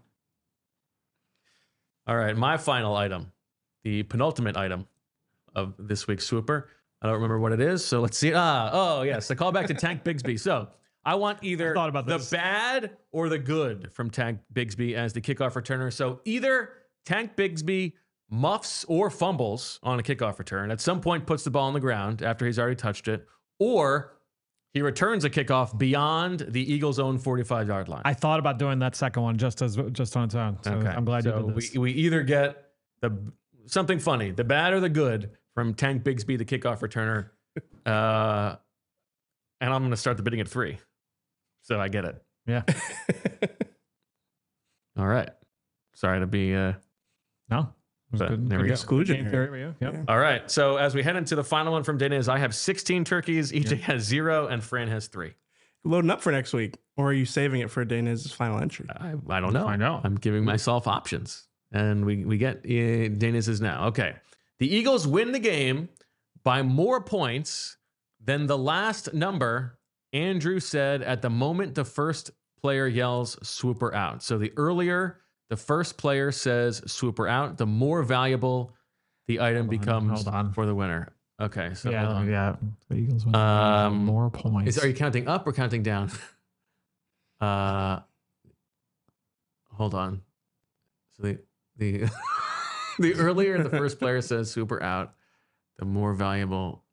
All right, my final item, the penultimate item of this week's Swooper. I don't remember what it is, so let's see. Oh yes, the callback to Tank Bigsby. So I want either the bad or the good from Tank Bigsby as the kickoff returner. So either Tank Bigsby muffs or fumbles on a kickoff return, at some point puts the ball on the ground after he's already touched it, or he returns a kickoff beyond the Eagles' own 45-yard line. I thought about doing that second one just on its own. So Okay. I'm glad you did this. We either get something funny, the bad or the good from Tank Bigsby, the kickoff returner. And I'm going to start the bidding at 3. So I get it. Yeah. All right. Sorry to be... No. But Good. there we go. Exclusion Game here. theory for you. Yep. All right. So as we head into the final one from Daniz, I have 16 turkeys. EJ has 0 and Fran has 3. Loading up for next week, or are you saving it for Daniz's final entry? I don't know. I know. I'm giving myself options. And we get Daniz's now. Okay. The Eagles win the game by more points than the last number Andrew said at the moment the first player yells swooper out. So the earlier the first player says swooper out, the more valuable the item becomes for the winner. Okay. So Yeah. The Eagles win more points. Are you counting up or counting down? Hold on. So the the earlier the first player says super out, the more valuable.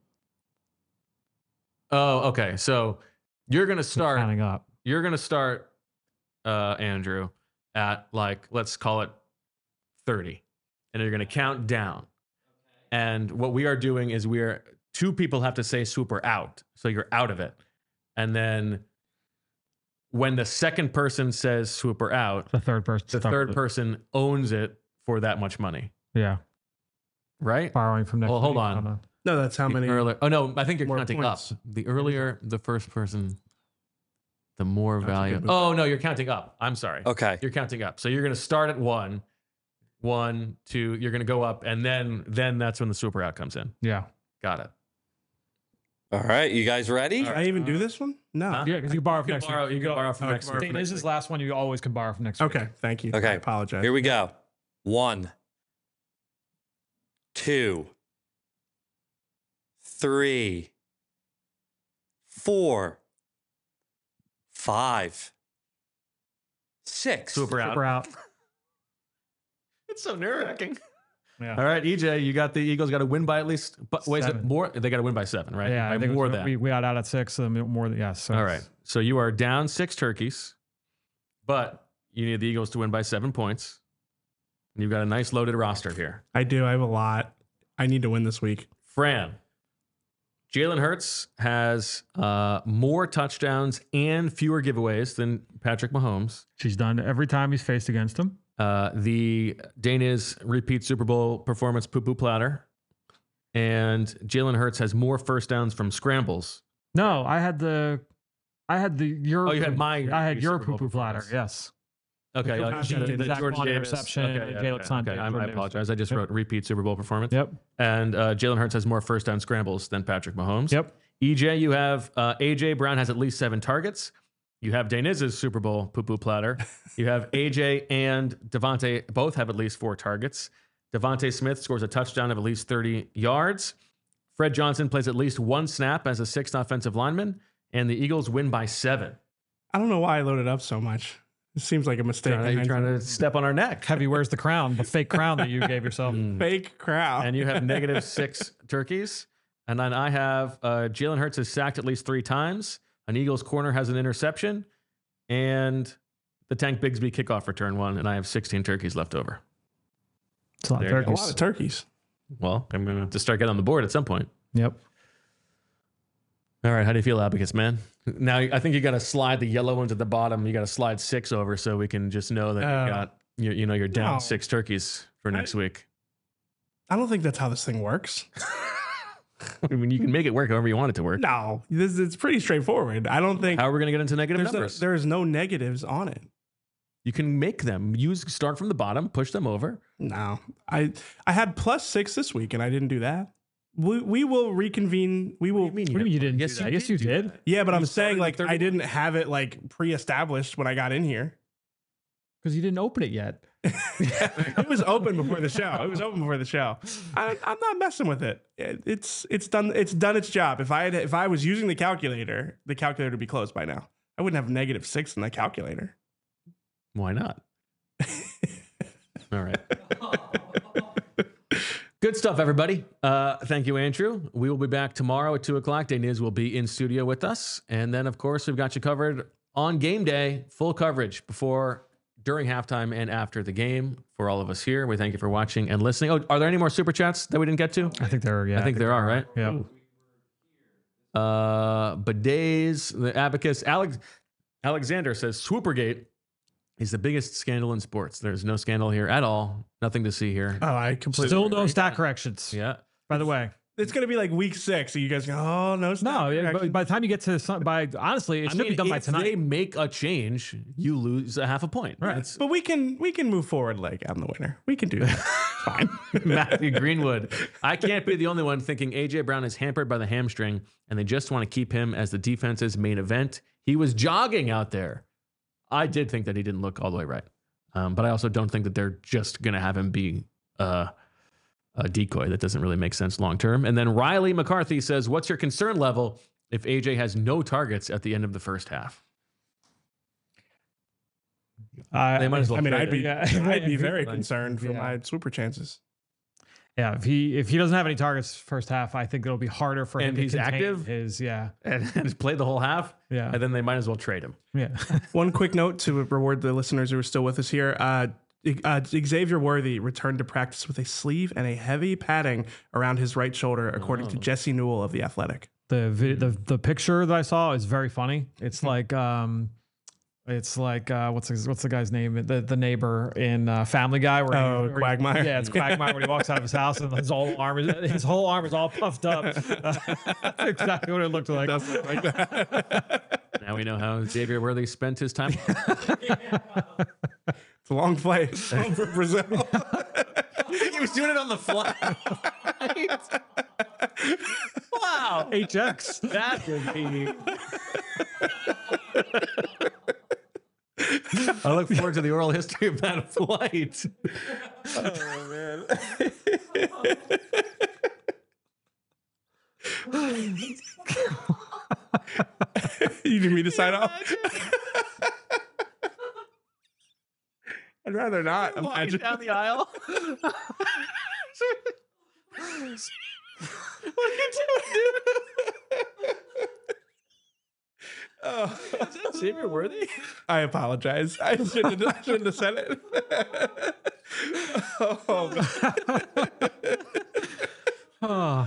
Oh, okay. So you're gonna start counting up. You're gonna start, Andrew, at like let's call it 30, and you're gonna count down. And what we are doing is two people have to say super out, so you're out of it, and then when the second person says swooper out, The third person owns it for that much money. Yeah. Right? Borrowing from next Well, hold week. on. No, that's how many. Oh, no, I think you're more counting points. up. The earlier the first person, the more That's a value. good move. Oh, no, you're counting up. I'm sorry. Okay. You're counting up. So you're going to start at 1, 2, you're going to go up, and then that's when the super out comes in. Yeah. Got it. All right, you guys ready? Can I even do this one? No. Huh? Yeah, because you can borrow from next week. You can borrow from next week. This is the last one you always can borrow from next week. Okay, thank you. Okay. I apologize. Here we go. 1, 2, 3, 4, 5, 6. Super We're out. out. It's so nerve-wracking. Yeah. All right, EJ, you got the Eagles got to win by at least. But wait, is it 7. more? They got to win by 7, right? Yeah, by I think more than. we got out at 6. So more than yes. So All right, so you are down 6 turkeys, but you need the Eagles to win by 7 points. And you've got a nice loaded roster here. I do. I have a lot. I need to win this week. Fran, Jalen Hurts has more touchdowns and fewer giveaways than Patrick Mahomes. she's done every time he's faced against him. The Dana's repeat Super Bowl performance poo-poo platter. And Jalen Hurts has more first downs from scrambles. No, I had your. Oh, you had my I had your Super Bowl poo-poo platter. performance. Yes. Okay, Zach Bond interception, and Jalen Sun did I Jordan apologize. I just wrote repeat Super Bowl performance. Yep. And Jalen Hurts has more first down scrambles than Patrick Mahomes. Yep. EJ, you have AJ Brown has at least 7 targets. You have Daniz's Super Bowl poo-poo platter. You have AJ and Devontae both have at least 4 targets. Devontae Smith scores a touchdown of at least 30 yards. Fred Johnson plays at least 1 snap as a 6th offensive lineman. And the Eagles win by 7. I don't know why I loaded up so much. It seems like a mistake. You're trying to step on our neck. Heavy, where's the crown? The fake crown that you gave yourself. Fake crowd. And you have negative 6 turkeys. And then I have Jalen Hurts is sacked at least 3 times. An Eagles corner has an interception. And the Tank Bigsby kickoff return 1. And I have 16 turkeys left over. It's a lot of There you go. a turkeys. lot of turkeys. Well, I'm going to have to start getting on the board at some point. Yep. All right. How do you feel, Abacus, man? Now, I think you got to slide the yellow ones at the bottom. You got to slide 6 over so we can just know that you got, you're down no. 6 turkeys for next week. I don't think that's how this thing works. I mean, you can make it work however you want it to work. No, it's pretty straightforward. I don't think How are we going to get into negative numbers? there's no negatives on it. You can make them. Start from the bottom, push them over. No, I had +6 this week, and I didn't do that. We will reconvene. We will. What do you mean you didn't do that? Yes, you did. Yeah, but I'm started saying like the I didn't have it like pre-established when I got in here. Because you didn't open it yet. It was open before the show. It was open before the show. I'm not messing with it. It's done. It's done its job. If I was using the calculator would be closed by now. I wouldn't have -6 in the calculator. Why not? All right. Good stuff, everybody. Thank you, Andrew. We will be back tomorrow at 2:00. Daniz will be in studio with us. And then, of course, we've got you covered on game day, full coverage before, during halftime, and after the game for all of us here. We thank you for watching and listening. Oh, are there any more super chats that we didn't get to? I think there are. Yeah, I think there are, right? Yeah. Bidets, the Abacus. Alexander says Swoopergate is the biggest scandal in sports. There's no scandal here at all. Nothing to see here. Oh, I completely. Still no stat corrections. Yeah. By the way. It's gonna be like week 6, and you guys go, oh no, No, yeah, but by the time you get to honestly, it should be done by if tonight. they make a change, you lose a half a point. Right. It's But we can move forward like I'm the winner. We can do that. Fine. Matthew Greenwood. I can't be the only one thinking AJ Brown is hampered by the hamstring, and they just want to keep him as the defense's main event. He was jogging out there. I did think that he didn't look all the way right, but I also don't think that they're just gonna have him be a decoy. That doesn't really make sense long term. And then Riley McCarthy says, what's your concern level if AJ has no targets at the end of the first half? They might as well. I mean, trade I'd it. be very concerned for Yeah. my super chances. Yeah, if he doesn't have any targets first half, I think it'll be harder for him And to he's contain active? his and play the whole half. Yeah. And then they might as well trade him. yeah. One quick note to reward the listeners who are still with us here. Xavier Worthy returned to practice with a sleeve and a heavy padding around his right shoulder, according to Jesse Newell of The Athletic. The picture that I saw is very funny. It's like what's the guy's name? The neighbor in Family Guy. Where Quagmire. Yeah, it's Quagmire when he walks out of his house and his whole arm is all puffed up. That's exactly what it looked like. Does look like that. Now we know how Xavier Worthy spent his time. It's a long flight for Brazil. He was doing it on the fly. What? Wow. HX. That would be. I look forward to the oral history of that flight. Oh man. You need me to sign off? I'd rather not. Walking Imagine. down the aisle. What are you doing, dude? Oh. Is that Xavier Worthy? I apologize. I shouldn't have said it. Oh, Oh.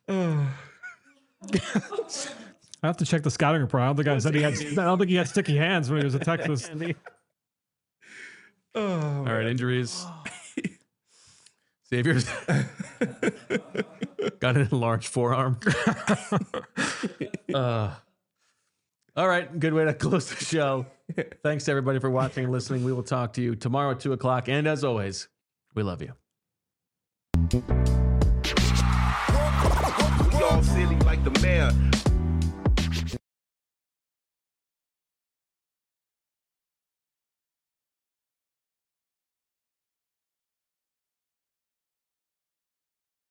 I have to check the scouting report. I don't think he had sticky hands when he was at Texas. oh. All right, injuries. Xavier's got an enlarged forearm. All right, good way to close the show. Thanks to everybody for watching and listening. We will talk to you tomorrow at 2:00. And as always, we love you. We all silly like the mayor.